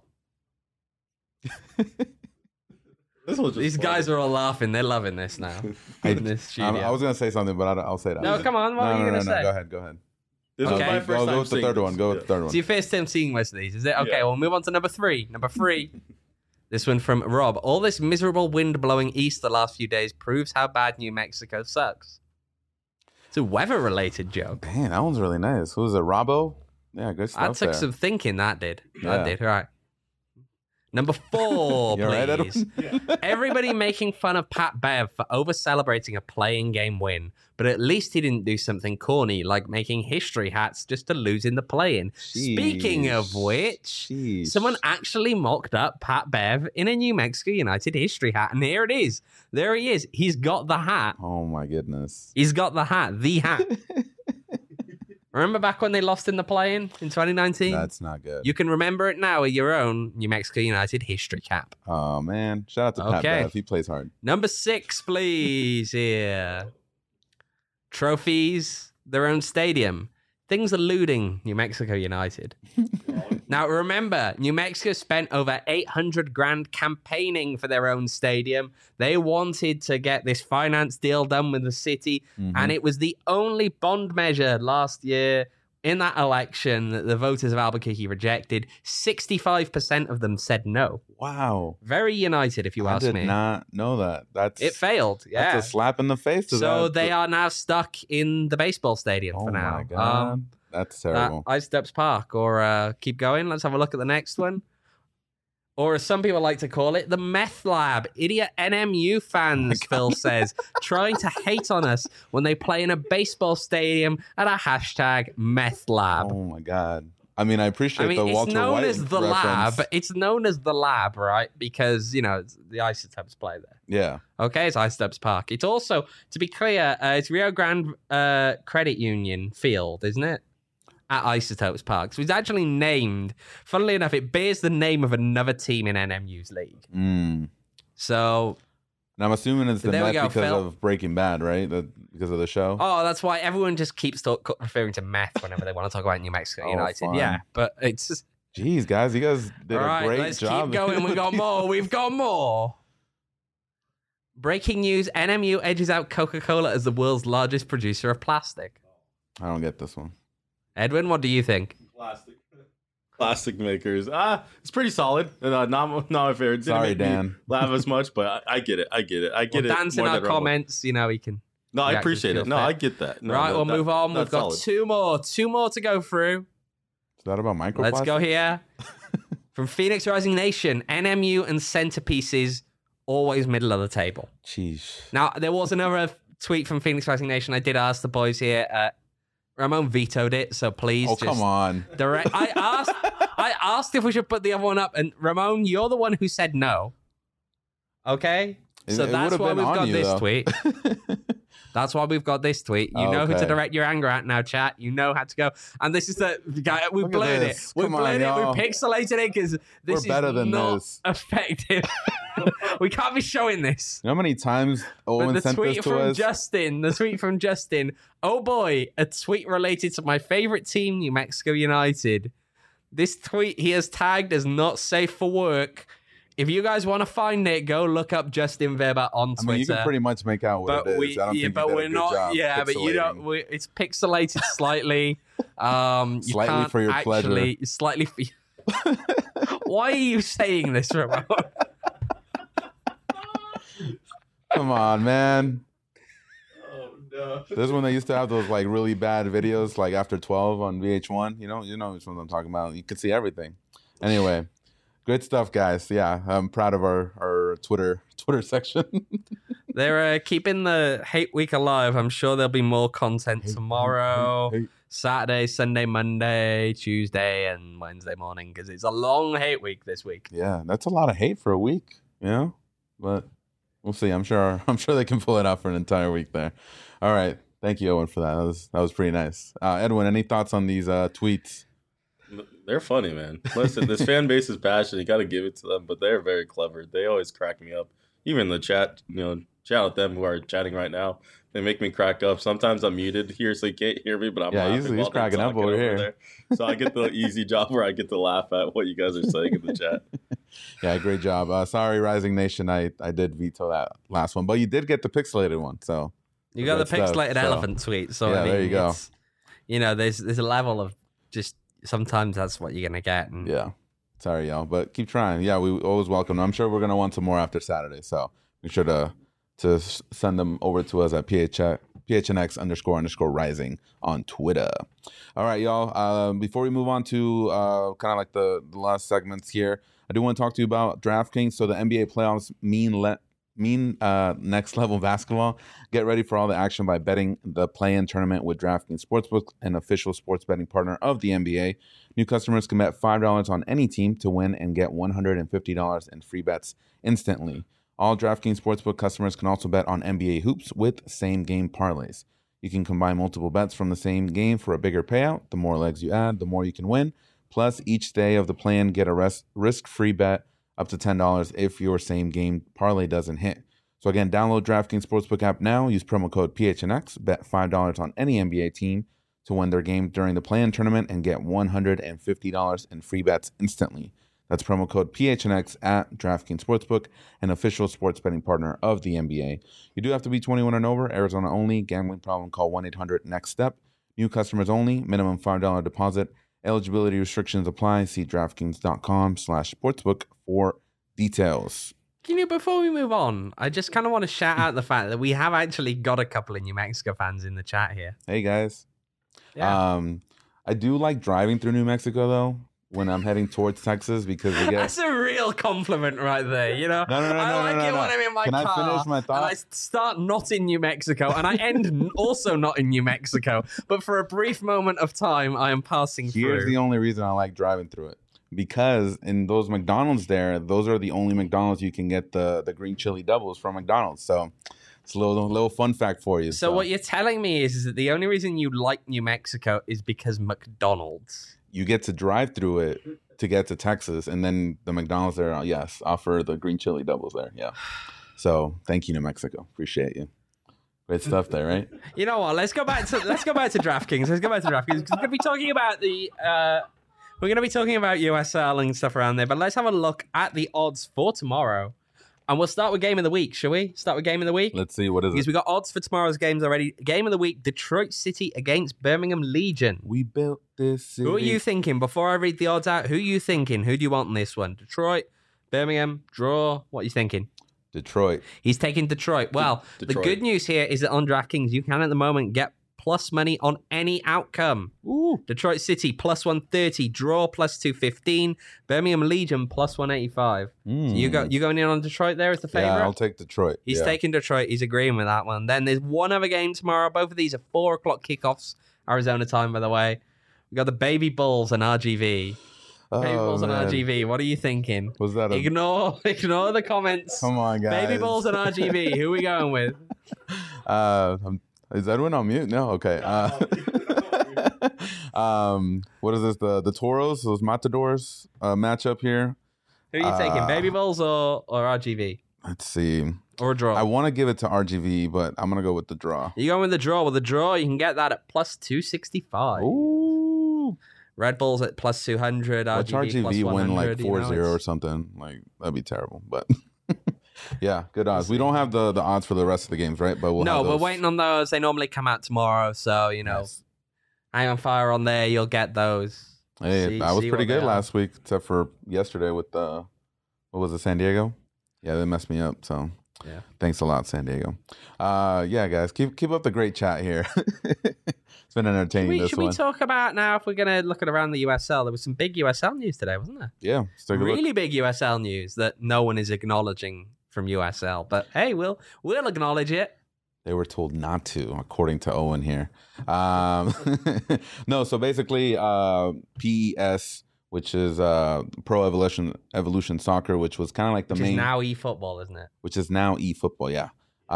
This was just These fun. guys are all laughing. They're loving this now. I, in this studio. I'm- I was gonna say something, but I, I'll say that. no, come on. What no, are you no, going to no, no. say? Go ahead. Go ahead. This Okay. was my Go, first go time with the seeing third this. one. Go with the third It's one. your first time seeing most of these, is it? Okay, Yeah. we'll move on to number three. Number three. This one from Rob. All this miserable wind blowing east the last few days proves how bad New Mexico sucks. It's a weather-related joke. Man, that one's really nice. Who was it? Robbo? Yeah, good stuff That took there. some thinking, that did. Yeah. That did, right. Number four, You all right, please. Edwin? Everybody making fun of Pat Bev for over-celebrating a playing game win, but at least he didn't do something corny like making history hats just to lose in the play-in. Speaking of Sheesh. which, Sheesh. someone actually mocked up Pat Bev in a New Mexico United history hat, and here it is. There he is. He's got the hat. Oh my goodness. He's got the hat. The hat. Remember back when they lost in the play-in in twenty nineteen? That's not good. You can remember it now with your own New Mexico United history cap. Oh man, shout out to Pat Okay. Bev. He plays hard. Number six, please. Here. Trophies, their own stadium. Things eluding New Mexico United. Now, remember, New Mexico spent over eight hundred grand campaigning for their own stadium. They wanted to get this finance deal done with the city, Mhm. and it was the only bond measure last year in that election that the voters of Albuquerque rejected. sixty-five percent of them said no. Wow. Very united, if you I ask did me. not know that. That's It failed, yeah. That's a slap in the face to So that. they are now stuck in the baseball stadium Oh for now. my god. Um, That's uh, terrible. Isotopes Park, or uh, keep going. Let's have a look at the next one. Or as some people like to call it, the meth lab. Idiot N M U fans, Phil says, trying to hate on us when they play in a baseball stadium at a hashtag meth lab. Oh my god. I mean, I appreciate I mean, the it's Walter known White as the reference. lab. It's known as the lab, right? Because, you know, it's- the Isotopes play there. Yeah. Okay, it's Isotopes Park. It's also, to be clear, uh, it's Rio Grande uh, Credit Union Field, isn't it? At Isotopes Park. So it's actually named, funnily enough, it bears the name of another team in N M U's league. Mm. So, And I'm assuming it's the There we Met go, because Phil. of Breaking Bad, right? The, because of the show. oh, that's why everyone just keeps talk, referring to meth whenever they want to talk about New Mexico Oh, United. fun. Yeah, but it's just, Jeez, guys, you guys did all a right, great let's job. keep going. We've got more. We've got more. Breaking news, N M U edges out Coca-Cola as the world's largest producer of plastic. I don't get this one. Edwin, what do you think? Plastic. Plastic makers. Ah, it's pretty solid. Uh, not, not my favorite. Didn't Sorry, make me Dan. laugh as much, but I, I get it. I get it. I get Well, it. Dan's in more our than Rumble. comments, you know, he can. No, I reactions appreciate feel it. No, fair. I get that. No, right, no, we'll that- move on. We've that's got solid. two more. Two more to go through. Is that about microplastics? Let's go here. From Phoenix Rising Nation, N M U and centerpieces always middle of the table. Jeez. Now, there was another tweet from Phoenix Rising Nation. I did ask the boys here. Uh, Ramon vetoed it, so please Oh, just come on. direct. I asked. I asked if we should put the other one up, and Ramon, you're the one who said no. Okay. So It- it that's would've why been we've on got you, this though. tweet. That's why we've got this tweet. You Oh, know who to okay. direct your anger at now, chat. You know how to go. And this is the guy. We Look at blurred it. this. We Come on, blurred it. y'all. We pixelated it because this We're is better than not this. effective. We can't be showing this. You know how many times But Owen the sent this tweet to from us? Justin, the tweet from Justin. Oh boy, a tweet related to my favorite team, New Mexico United. This tweet he has tagged as not safe for work. If you guys want to find it, go look up Justin Weber on I Twitter. mean, you can pretty much make out what but it is. we, I don't yeah, think but you did we're a good not. job Yeah, but you don't. pixelating. We, it's pixelated slightly. Um, you Slightly can't for your pleasure. actually, Slightly for. Why are you saying this, Ramon? Come on, man. Oh no. This is when they used to have those like really bad videos, like after twelve on V H one. You know, you know which ones I'm talking about. You could see everything. Anyway, good stuff, guys. Yeah, I'm proud of our our Twitter Twitter section. They're uh, keeping the hate week alive. I'm sure there'll be more content tomorrow, Hey, hey. Saturday, Sunday, Monday, Tuesday, and Wednesday morning because it's a long hate week this week. Yeah, that's a lot of hate for a week. You know, but we'll see. I'm sure. I'm sure they can pull it out for an entire week there. All right. Thank you, Owen, for that. That was that was pretty nice. Uh, Edwin, any thoughts on these uh, tweets? They're funny, man. Listen, this fan base is passionate. You got to give it to them, but they're very clever. They always crack me up. Even the chat, you know, shout out them who are chatting right now. They make me crack up. Sometimes I'm muted here, so you can't hear me, but I'm Yeah, laughing he's- he's while they're cracking up talking over here. there. So I get the easy job where I get to laugh at what you guys are saying in the chat. Yeah, great job. Uh, sorry, Rising Nation. I, I did veto that last one, but you did get the pixelated one. So You got the Good stuff. pixelated So, elephant tweet. So yeah, I mean, there you go. it's- You know, there's there's a level of just sometimes that's what you're gonna get. And yeah, sorry, y'all, but keep trying. Yeah, we always welcome them. I'm sure we're gonna want some more after Saturday. So be sure to to s- send them over to us at P H N X underscore underscore rising on Twitter. All right, y'all. Uh, before we move on to uh, kind of like the, the last segments here, I do want to talk to you about DraftKings. So the N B A playoffs mean let mean uh, next level basketball. Get ready for all the action by betting the play-in tournament with DraftKings Sportsbook, an official sports betting partner of the N B A. New customers can bet five dollars on any team to win and get one hundred fifty dollars in free bets instantly. All DraftKings Sportsbook customers can also bet on N B A hoops with same-game parlays. You can combine multiple bets from the same game for a bigger payout. The more legs you add, the more you can win. Plus, each day of the plan, get a res- risk-free bet up to ten dollars if your same-game parlay doesn't hit. So again, download DraftKings Sportsbook app now. Use promo code P H N X. Bet five dollars on any N B A team to win their game during the play-in tournament and get one hundred fifty dollars in free bets instantly. That's promo code P H N X at DraftKings Sportsbook, an official sports betting partner of the N B A. You do have to be twenty-one and over, Arizona only. Gambling problem, call one eight hundred next step. New customers only, minimum five dollars deposit. Eligibility restrictions apply. See DraftKings.com slash sportsbook for details. You know, before we move on, I just kind of want to shout out the fact that we have actually got a couple of New Mexico fans in the chat here. Hey, guys. Yeah. Um, I do like driving through New Mexico, though, when I'm heading towards Texas because we get... That's a real compliment right there, you know? No, no, no, I no, like no, it no, when no. I'm in my Can I car finish my thought? and I start not in New Mexico and I end n- also not in New Mexico. But for a brief moment of time, I am passing Here's through. the only reason I like driving through it. Because in those McDonald's there, those are the only McDonald's you can get the, the green chili doubles from McDonald's. So it's a little little fun fact for you. So what you're telling me is, is that the only reason you like New Mexico is because McDonald's. You get to drive through it to get to Texas, and then the McDonald's there, yes, offer the green chili doubles there. Yeah. So thank you, New Mexico. Appreciate you. Great stuff there, right? You know what? Let's go back to let's go back to DraftKings. Let's go back to DraftKings. 'Cause we're gonna be talking about the uh, we're gonna be talking about U S L and stuff around there. But let's have a look at the odds for tomorrow, and we'll start with game of the week. Shall we start with game of the week? Let's see, what is Because it? we got odds for tomorrow's games already. Game of the week: Detroit City against Birmingham Legion. We built this city. Who are you thinking? Before I read the odds out, who are you thinking? Who do you want in this one? Detroit, Birmingham, draw. What are you thinking? Detroit. He's taking Detroit. Well, Detroit. the good news here is that on DraftKings, you can at the moment get plus money on any outcome. Ooh. Detroit City plus one thirty, draw plus two fifteen, Birmingham Legion plus one eighty-five. Mm. So you go you going in on Detroit there as the favorite? Yeah, I'll take Detroit. He's yeah. taking Detroit. He's agreeing with that one. Then there's one other game tomorrow. Both of these are four o'clock kickoffs, Arizona time, by the way. We got the Baby Bulls and R G V. Baby Oh, balls and man. R G V. What are you thinking? Was that a... Ignore, ignore the comments. Come on, guys. Baby balls and R G V. Who are we going with? Uh, um, is Edwin on mute? No. Okay. Uh, um, what is this? The the Toros, those Matadors uh, matchup here. Who are you taking? Uh, Baby balls or or R G V Let's see. or a draw? I want to give it to R G V, but I'm gonna go with the draw. You going with the draw? With the draw, you can get that at plus two sixty five. Ooh. Red Bulls at plus two hundred. Watch R R G G V V plus win like one hundred, four you know, zero or it's- something. Like that'd be terrible. But yeah, good odds. We don't have the the odds for the rest of the games, right? But we'll no, have we're those. waiting on those. They normally come out tomorrow, so you know, Yes. hang on fire on there. You'll get those. Hey, See- I was see pretty what they good are. last week, except for yesterday with the what was it, San Diego? Yeah, they messed me up. So Yeah. thanks a lot, San Diego. Uh, yeah, guys, keep keep up the great chat here. It's been entertaining. Should we, this should one. we talk about now if we're going to look at around the U S L? There was some big U S L news today, wasn't there? Yeah, let's take a look. Really big U S L news that no one is acknowledging from U S L. But hey, we'll we'll acknowledge it. They were told not to, according to Owen here. Um, no, so basically, uh, P E S, which is uh, Pro Evolution Evolution Soccer, which was kind of like the Which main, is now eFootball, isn't it? which is now eFootball. Yeah,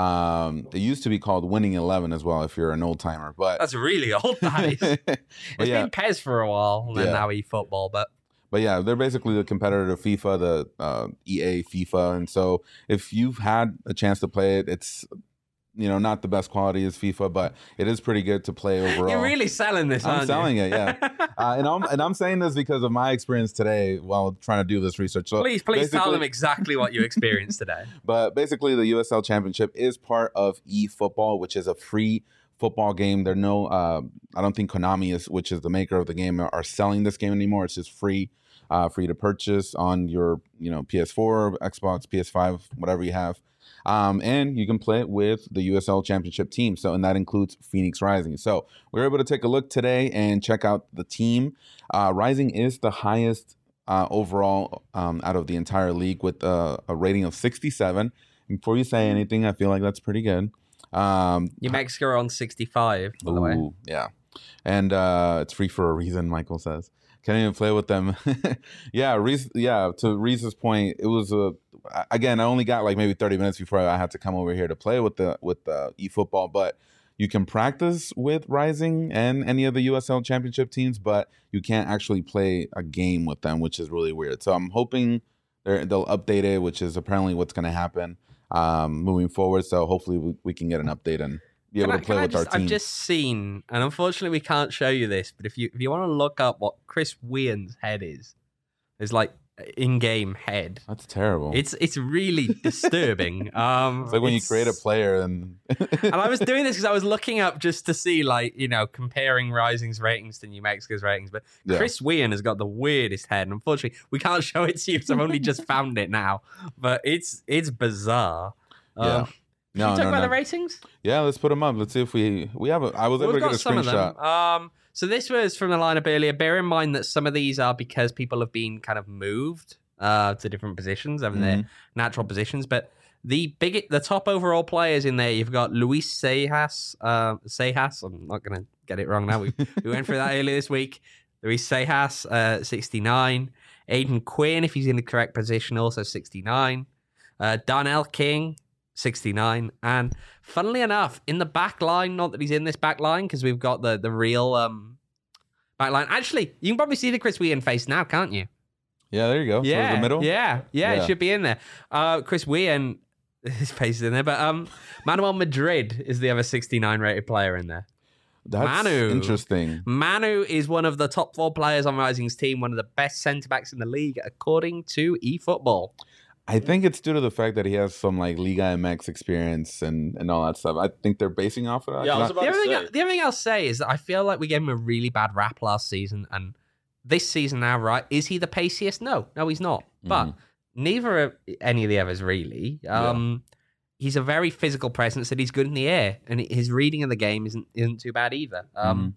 um, it used to be called Winning Eleven as well. If you're an old timer, but That's really old, that is. but It's yeah, been Pez for a while, and then Yeah. now eFootball. But but yeah, they're basically the competitor to FIFA, the uh, E A FIFA, and so if you've had a chance to play it, it's you know not the best quality as FIFA, but it is pretty good to play overall. you're really selling this, I'm aren't selling you? it, yeah. Uh, and I'm and I'm saying this because of my experience today while trying to do this research. So please, please tell basically- them exactly what you experienced today. But basically, the U S L Championship is part of eFootball, which is a free football game. There are no, uh, I don't think Konami is, which is the maker of the game, are selling this game anymore. It's just free, uh, free to purchase on your, you know, P S four, Xbox, P S five, whatever you have. Um, and you can play it with the U S L Championship team. So, and that includes Phoenix Rising. So, we were able to take a look today and check out the team. Uh, Rising is the highest uh, overall um, out of the entire league with uh, a rating of sixty-seven. And before you say anything, I feel like that's pretty good. Um, New Mexico are on sixty-five, by the way. Ooh, yeah. And uh, it's free for a reason, Michael says. Can't even play with them. yeah, Reese, yeah, to Reese's point, it was a again, I only got like maybe thirty minutes before I had to come over here to play with the with the eFootball, but you can practice with Rising and any of the U S L Championship teams, but you can't actually play a game with them, which is really weird. So I'm hoping they're, they'll update it, which is apparently what's going to happen um, moving forward. So hopefully we, we can get an update and be able Can I- to play can I with just- our team. I've just seen, and unfortunately we can't show you this, but if you if you want to look up what Chris Wean's head is, is like in-game head. That's terrible. It's it's really disturbing. Um, It's like when you it's- create a player and and I was doing this because I was looking up just to see, like, you know, comparing Rising's ratings to New Mexico's ratings. But Yeah. Chris Wean has got the weirdest head. And unfortunately, we can't show it to you because I've only just found it now. But it's it's bizarre. Yeah. Um, no, Can you talk no, about no. the ratings? Yeah, let's put them up. Let's see if we we have. A, I was Well, able we've to got get a some of screenshot. them. Um, so this was from the lineup earlier. Bear in mind that some of these are because people have been kind of moved uh, to different positions, having their Mhm. natural positions. But the big, the top overall players in there, you've got Luis Sejas. Uh, Sejas. I'm not going to get it wrong now. We, we went through that earlier this week. Luis Sejas, uh, sixty-nine. Aiden Quinn, if he's in the correct position, also sixty-nine. Uh, Darnell King, sixty-nine. And funnily enough, in the back line, not that he's in this back line because we've got the, the real um, back line. Actually, you can probably see the Chris Wean face now, can't you? Yeah, there you go. Yeah, Towards the middle. yeah, yeah, Yeah. it should be in there. Uh, Chris Wean, his face is in there, but um, Manuel Madrid is the other sixty-nine rated player in there. That's Manu. interesting. Manu is one of the top four players on Rising's team, one of the best centre backs in the league, according to eFootball. I think it's due to the fact that he has some like Liga M X experience and, and all that stuff. I think they're basing off of that. Yeah, I was Not- about The to other, say. thing, the other thing I'll say is that I feel like we gave him a really bad rap last season, and this season now, right? Is he the paciest? No, no, he's not. But Mhm. neither of any of the others really. Um, He's a very physical presence, and he's good in the air, and his reading of the game isn't isn't too bad either. Um,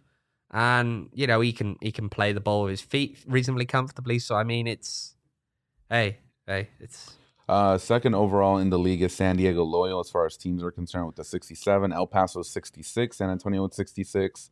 and you know he can he can play the ball with his feet reasonably comfortably. So I mean, it's hey hey, it's. Uh, second overall in the league is San Diego Loyal as far as teams are concerned with the sixty-seven. El Paso sixty-six. San Antonio with sixty-six.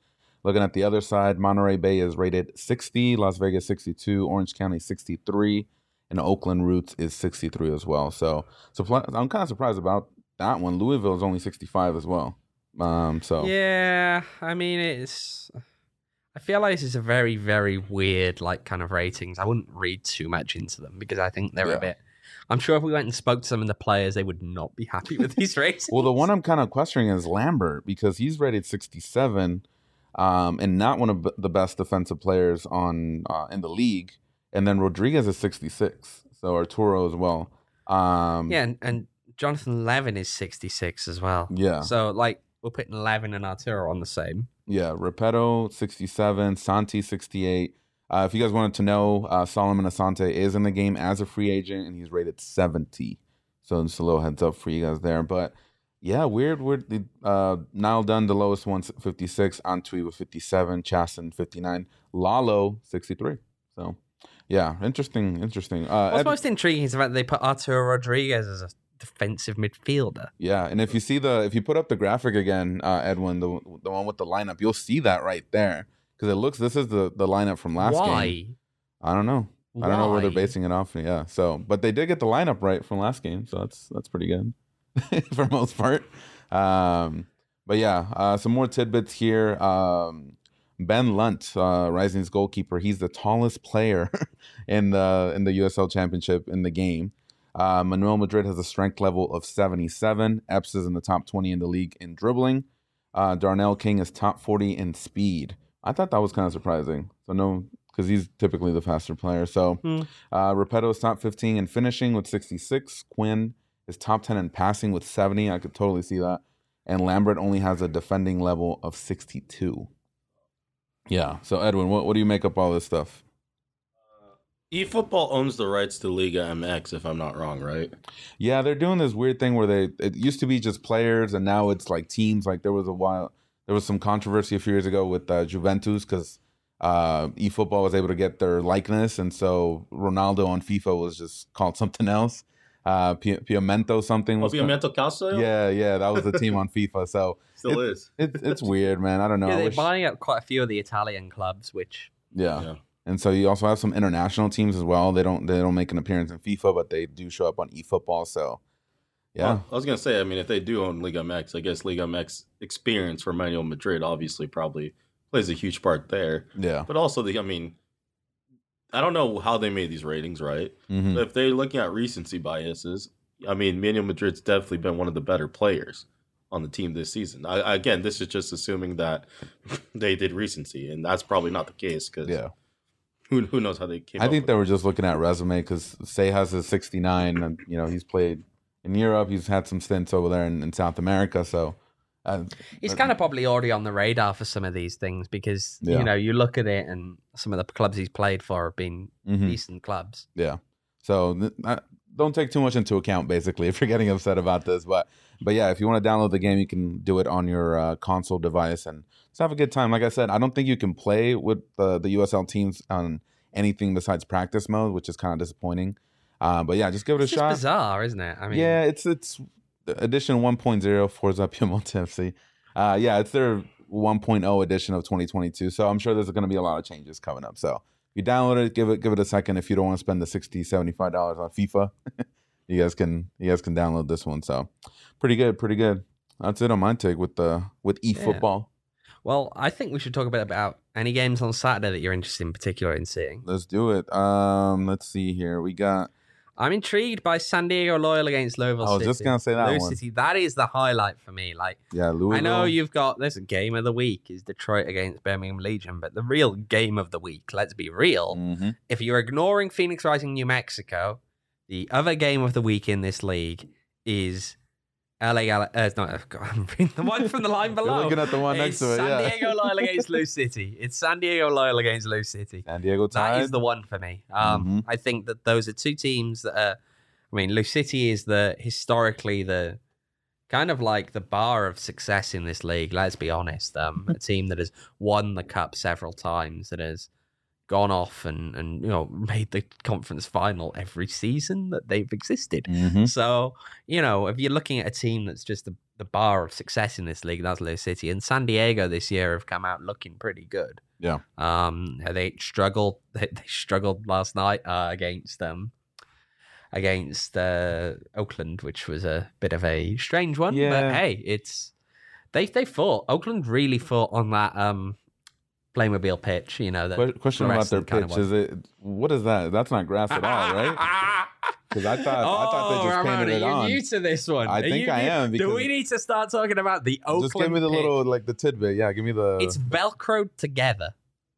Looking at the other side, Monterey Bay is rated sixty, Las Vegas sixty-two, Orange County sixty-three, and Oakland Roots is sixty-three as well. So, so I'm kind of surprised about that one. Louisville is only sixty-five as well. Um, so yeah, I mean, it's. I feel like this is a very, very weird, like, kind of ratings. I wouldn't read too much into them because I think they're Yeah. a bit. I'm sure if we went and spoke to some of the players, they would not be happy with these ratings. Well, the one I'm kind of questioning is Lambert because he's rated sixty-seven, um, and not one of the best defensive players on uh, in the league. And then Rodriguez is sixty-six, so Arturo as well. Um, Yeah, and, and Jonathan Levin is sixty-six as well. Yeah. So, like, we're putting Levin and Arturo on the same. Yeah, Repetto, sixty-seven, Santi, sixty-eight. Uh, if you guys wanted to know, uh, Solomon Asante is in the game as a free agent, and he's rated seventy. So just a little heads up for you guys there. But, yeah, weird, weird. Uh, Niall Dunn, the lowest one, fifty-six. Antwi with fifty-seven. Chasen, fifty-nine. Lalo, sixty-three. So, yeah, interesting, interesting. Uh, What's Ed- most intriguing is the fact that they put Arturo Rodriguez as a defensive midfielder. Yeah, and if you see the if you put up the graphic again, uh, Edwin, the the one with the lineup, you'll see that right there because it looks. This is the the lineup from last Why? game. I don't know. I don't know where they're Why? basing it off. Yeah, so but they did get the lineup right from last game, so that's that's pretty good for most part. Um, but yeah, uh, some more tidbits here. Um, Ben Lunt, uh, Rising's goalkeeper, he's the tallest player in the in the U S L Championship in the game. Uh, Manuel Madrid has a strength level of seventy-seven. Epps is in the top twenty in the league in dribbling. Uh, Darnell King is top forty in speed. I thought that was kind of surprising. So no, because he's typically the faster player. So Hmm. uh, Repetto is top fifteen in finishing with sixty-six. Quinn is top ten in passing with seventy. I could totally see that. And Lambert only has a defending level of sixty-two. Yeah. So Edwin, what, what do you make up all this stuff? eFootball owns the rights to Liga M X, if I'm not wrong, right? Yeah, they're doing this weird thing where they it used to be just players and now it's like teams. Like there was a while there was some controversy a few years ago with uh, Juventus because uh, eFootball was able to get their likeness, and so Ronaldo on FIFA was just called something else. Uh, Pi- Piamento something was. Piamento Calcio? Yeah, yeah, that was the team on FIFA. So Still it- is. it's it's weird, man. I don't know. Yeah, I they're wish- buying up quite a few of the Italian clubs, which yeah. Yeah. And so you also have some international teams as well. They don't they don't make an appearance in FIFA, but they do show up on eFootball. So yeah. Well, I was gonna say, I mean, if they do own Liga M X, I guess Liga M X experience for Manuel Madrid obviously probably plays a huge part there. Yeah. But also, the I mean, I don't know how they made these ratings, right? Mhm. But if they're looking at recency biases, I mean, Manuel Madrid's definitely been one of the better players on the team this season. I, again, this is just assuming that they did recency, and that's probably not the case because Yeah. who who knows how they came. I up think with they it. were just looking at resume because Say has a sixty-nine, and you know he's played in Europe. He's had some stints over there in, in South America. So uh, it's uh, kind of probably already on the radar for some of these things because, Yeah. you know, you look at it and some of the clubs he's played for have been mhm, decent clubs. yeah. So th- uh, don't take too much into account, basically, if you're getting upset about this. But but yeah, if you want to download the game, you can do it on your uh, console device and just have a good time. Like I said, I don't think you can play with the the U S L teams on anything besides practice mode, which is kind of disappointing. Uh, but yeah, just give it It's a just shot. bizarre, isn't it? I mean, Yeah, it's it's edition one point oh Forza Piemonte F C. Uh, yeah, it's their one point oh edition of twenty twenty-two. So I'm sure there's going to be a lot of changes coming up. So if you download it, give it give it a second. If you don't want to spend the sixty, seventy-five dollars on FIFA, you guys can you guys can download this one. So pretty good, pretty good. That's it on my take with the with eFootball. Well, I think we should talk a bit about any games on Saturday that you're interested in particular in seeing. Let's do it. Um, let's see here. We got. I'm intrigued by San Diego Loyal against Louisville I was City. just gonna say that Louisville one. City, that is the highlight for me. Like, Yeah, Louisville. I know you've got this game of the week is Detroit against Birmingham Legion, but the real game of the week, let's be real. Mm-hmm. If you're ignoring Phoenix Rising New Mexico, the other game of the week in this league is L A. Gal- uh, no, God, I'm reading the one from the line below. You're looking at the one next It's to it. San Yeah. Diego Loyal against Lou City. It's San Diego Loyal against Lou City. San Diego Tide. That is the one for me. Um, Mhm. I think that those are two teams that are. I mean, Lou City is the historically the kind of like the bar of success in this league. Let's be honest. Um, a team that has won the cup several times, that has, gone off and, and you know made the conference final every season that they've existed. Mhm. So, you know, if you're looking at a team that's just the, the bar of success in this league, that's Lou City. And San Diego this year have come out looking pretty good. Yeah. Um, they struggled. They, they struggled last night uh, against um against uh, Oakland, which was a bit of a strange one. Yeah. But hey, it's they they fought. Oakland really fought on that um Playmobil pitch. You know, that Que- Question about their fluorescent kind of pitch: one. is it what is that? That's not grass at all, right? Because I thought I thought they Oh, just Ramon, painted it are you on. new to this one? I Are think you I new- am, Do because- we need to start talking about the Oakland Just give me the pitch? little like the tidbit. Yeah, give me the. It's velcroed together.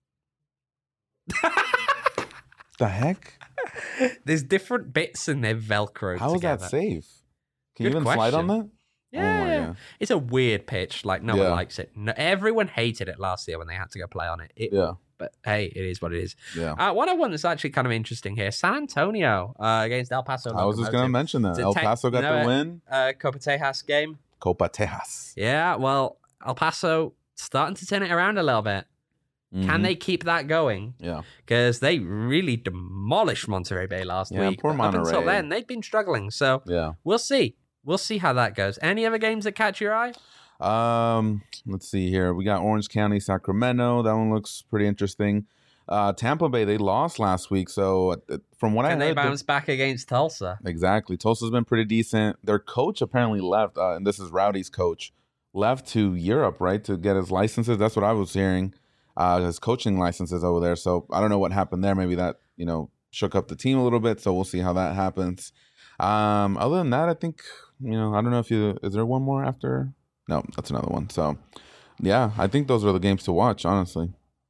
the heck? There's different bits and they're velcroed How is together. that safe? Can Good you even slide on question. that? Yeah, Oh my God. it's a weird pitch. Like no Yeah. one likes it. No, everyone hated it last year when they had to go play on it. It- Yeah, But hey, it is what it is. yeah. Uh, one of one that's actually kind of interesting here: San Antonio uh, against El Paso. I was just gonna Locomotive. mention that It's a El tech- Paso got no, the uh, win. Uh, Copa Tejas game. Copa Tejas. Yeah, well, El Paso starting to turn it around a little bit. Can Mhm. they keep that going? Yeah. Because they really demolished Monterey Bay last Yeah, week. poor but Up until Monterey. then, they've been struggling. So Yeah. we'll see. We'll see how that goes. Any other games that catch your eye? Um, let's see here. We got Orange County, Sacramento. That one looks pretty interesting. Uh, Tampa Bay, they lost last week, so uh, from what I Can they heard, they're- bounce back against Tulsa? exactly. Tulsa's been pretty decent. Their coach apparently left, uh, and this is Rowdy's coach, left to Europe, right, to get his licenses. That's what I was hearing. Uh, his coaching licenses over there. So I don't know what happened there. Maybe that you know shook up the team a little bit. So we'll see how that happens. Um, other than that, I think you know I don't know if you is there one more after. No, that's another one. So, yeah, I think those are the games to watch, honestly.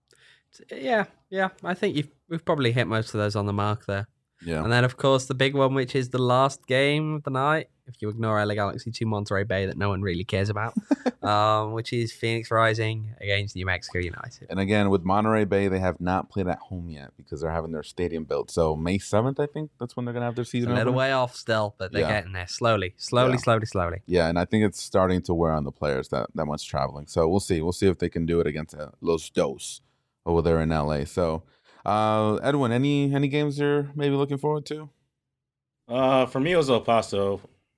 Yeah, yeah. I think you've, we've probably hit most of those on the mark there. Yeah. And then, of course, the big one, which is the last game of the night, if you ignore L A Galaxy two Monterey Bay that no one really cares about, um, which is Phoenix Rising against New Mexico United. And again, with Monterey Bay, they have not played at home yet because they're having their stadium built. So May seventh, I think that's when they're going to have their It's season a little opener. way off still, but they're Yeah. getting there slowly, slowly, Yeah. slowly, slowly. Yeah, and I think it's starting to wear on the players that, that much traveling. So we'll see. We'll see if they can do it against uh, Los Dos over there in L A. So, uh, Edwin, any any games you're maybe looking forward to? Uh, for me, it was El Paso.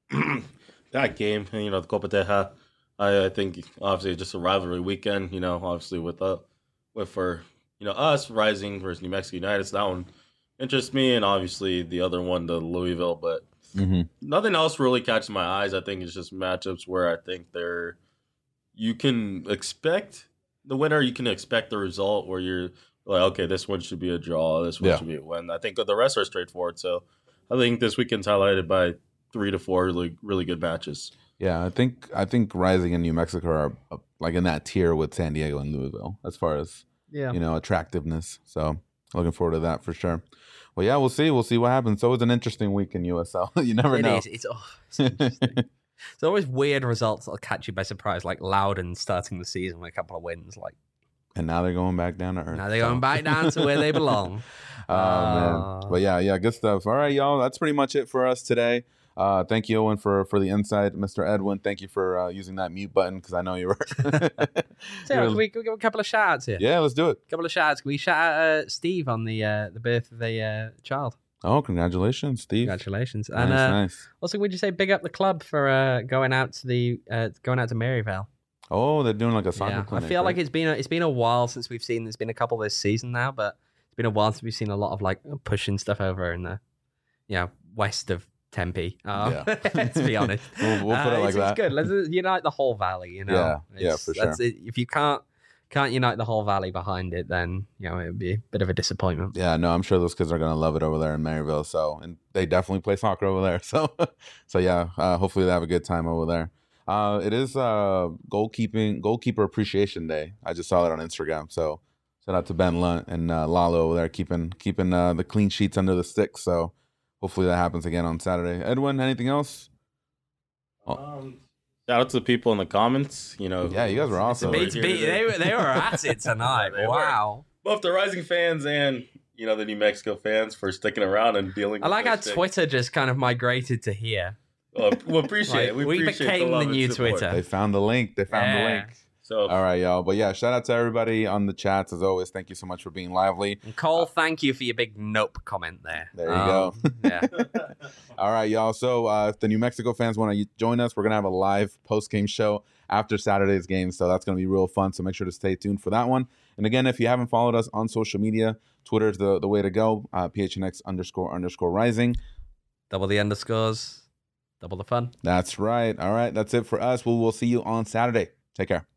That game, you know, the Copa Teja. I, I think obviously just a rivalry weekend. You know, obviously with uh, with for you know us Rising versus New Mexico United. So that one interests me, and obviously the other one, the Louisville. But Mm-hmm. nothing else really catches my eyes. I think it's just matchups where I think they're you can expect the winner. You can expect the result where you're like, okay, this one should be a draw. This one Yeah. should be a win. I think the rest are straightforward. So I think this weekend's highlighted by three to four really really good matches. Yeah, I think I think Rising and New Mexico are uh, like in that tier with San Diego and Louisville as far as Yeah. you know attractiveness. So looking forward to that for sure. Well, yeah, we'll see. We'll see what happens. So it's an interesting week in U S L. You never It know. is. It's, oh, it's interesting. There's always weird results that'll catch you by surprise, like Loudon starting the season with a couple of wins. Like And now they're going back down to earth. now they're going so. back down to where they belong. Oh man, but yeah, yeah, good stuff. All right, y'all, that's pretty much it for us today. Uh, thank you, Owen, for for the insight, Mister Edwin. Thank you for uh, using that mute button because I know you were. So, can, we, can we give a couple of shout outs here? Yeah, let's do it. A couple of shout outs. Can we shout out uh, Steve on the uh, the birth of the uh, child? Oh, congratulations, Steve. Congratulations. Nice, And uh, nice. also, would you say big up the club for uh, going out to the uh, going out to Maryvale? Oh, they're doing like a soccer Yeah, I clinic. feel like right? it's been a, it's been a while since we've seen. There's been a couple this season now, but it's been a while since we've seen a lot of like pushing stuff over in the, you know, west of Tempe. Um, Yeah. to be honest, We'll- we'll put it Uh, like it's, that. It's good. Let's unite the whole valley. You know. Yeah, yeah, It's- for that's it. If you can't can't unite the whole valley behind it, then you know it would be a bit of a disappointment. Yeah, no, I'm sure those kids are gonna love it over there in Maryville. So, and they definitely play soccer over there. So, so yeah, uh, hopefully they have a good time over there. Uh, it is uh, goalkeeping goalkeeper appreciation day. I just saw that on Instagram. So, shout out to Ben Lunt and uh, Lalo over there keeping keeping uh, the clean sheets under the sticks. So, hopefully that happens again on Saturday. Edwin, anything else? Um, shout out to the people in the comments. You know, Yeah, you guys were awesome. We're Beats here beat, today. they were they were at it tonight. They were. Wow. both the Rising fans and you know the New Mexico fans for sticking around and dealing. I with like how this thing. Twitter just kind of migrated to here. Oh, we appreciate Like, it. We, we appreciate became the, love the and new support. Twitter. They found the link. They found the Yeah. link. So All right, y'all. But yeah, shout out to everybody on the chats as always. Thank you so much for being lively. And Cole, thank you for your big nope comment there. There you go. Yeah. All right, y'all. So uh, if the New Mexico fans want to join us, we're going to have a live post-game show after Saturday's game. So that's going to be real fun. So make sure to stay tuned for that one. And again, if you haven't followed us on social media, Twitter is the, the way to go. Uh, P H N X underscore underscore rising. Double the underscores, double the fun. That's right. All right. That's it for us. We will see you on Saturday. Take care.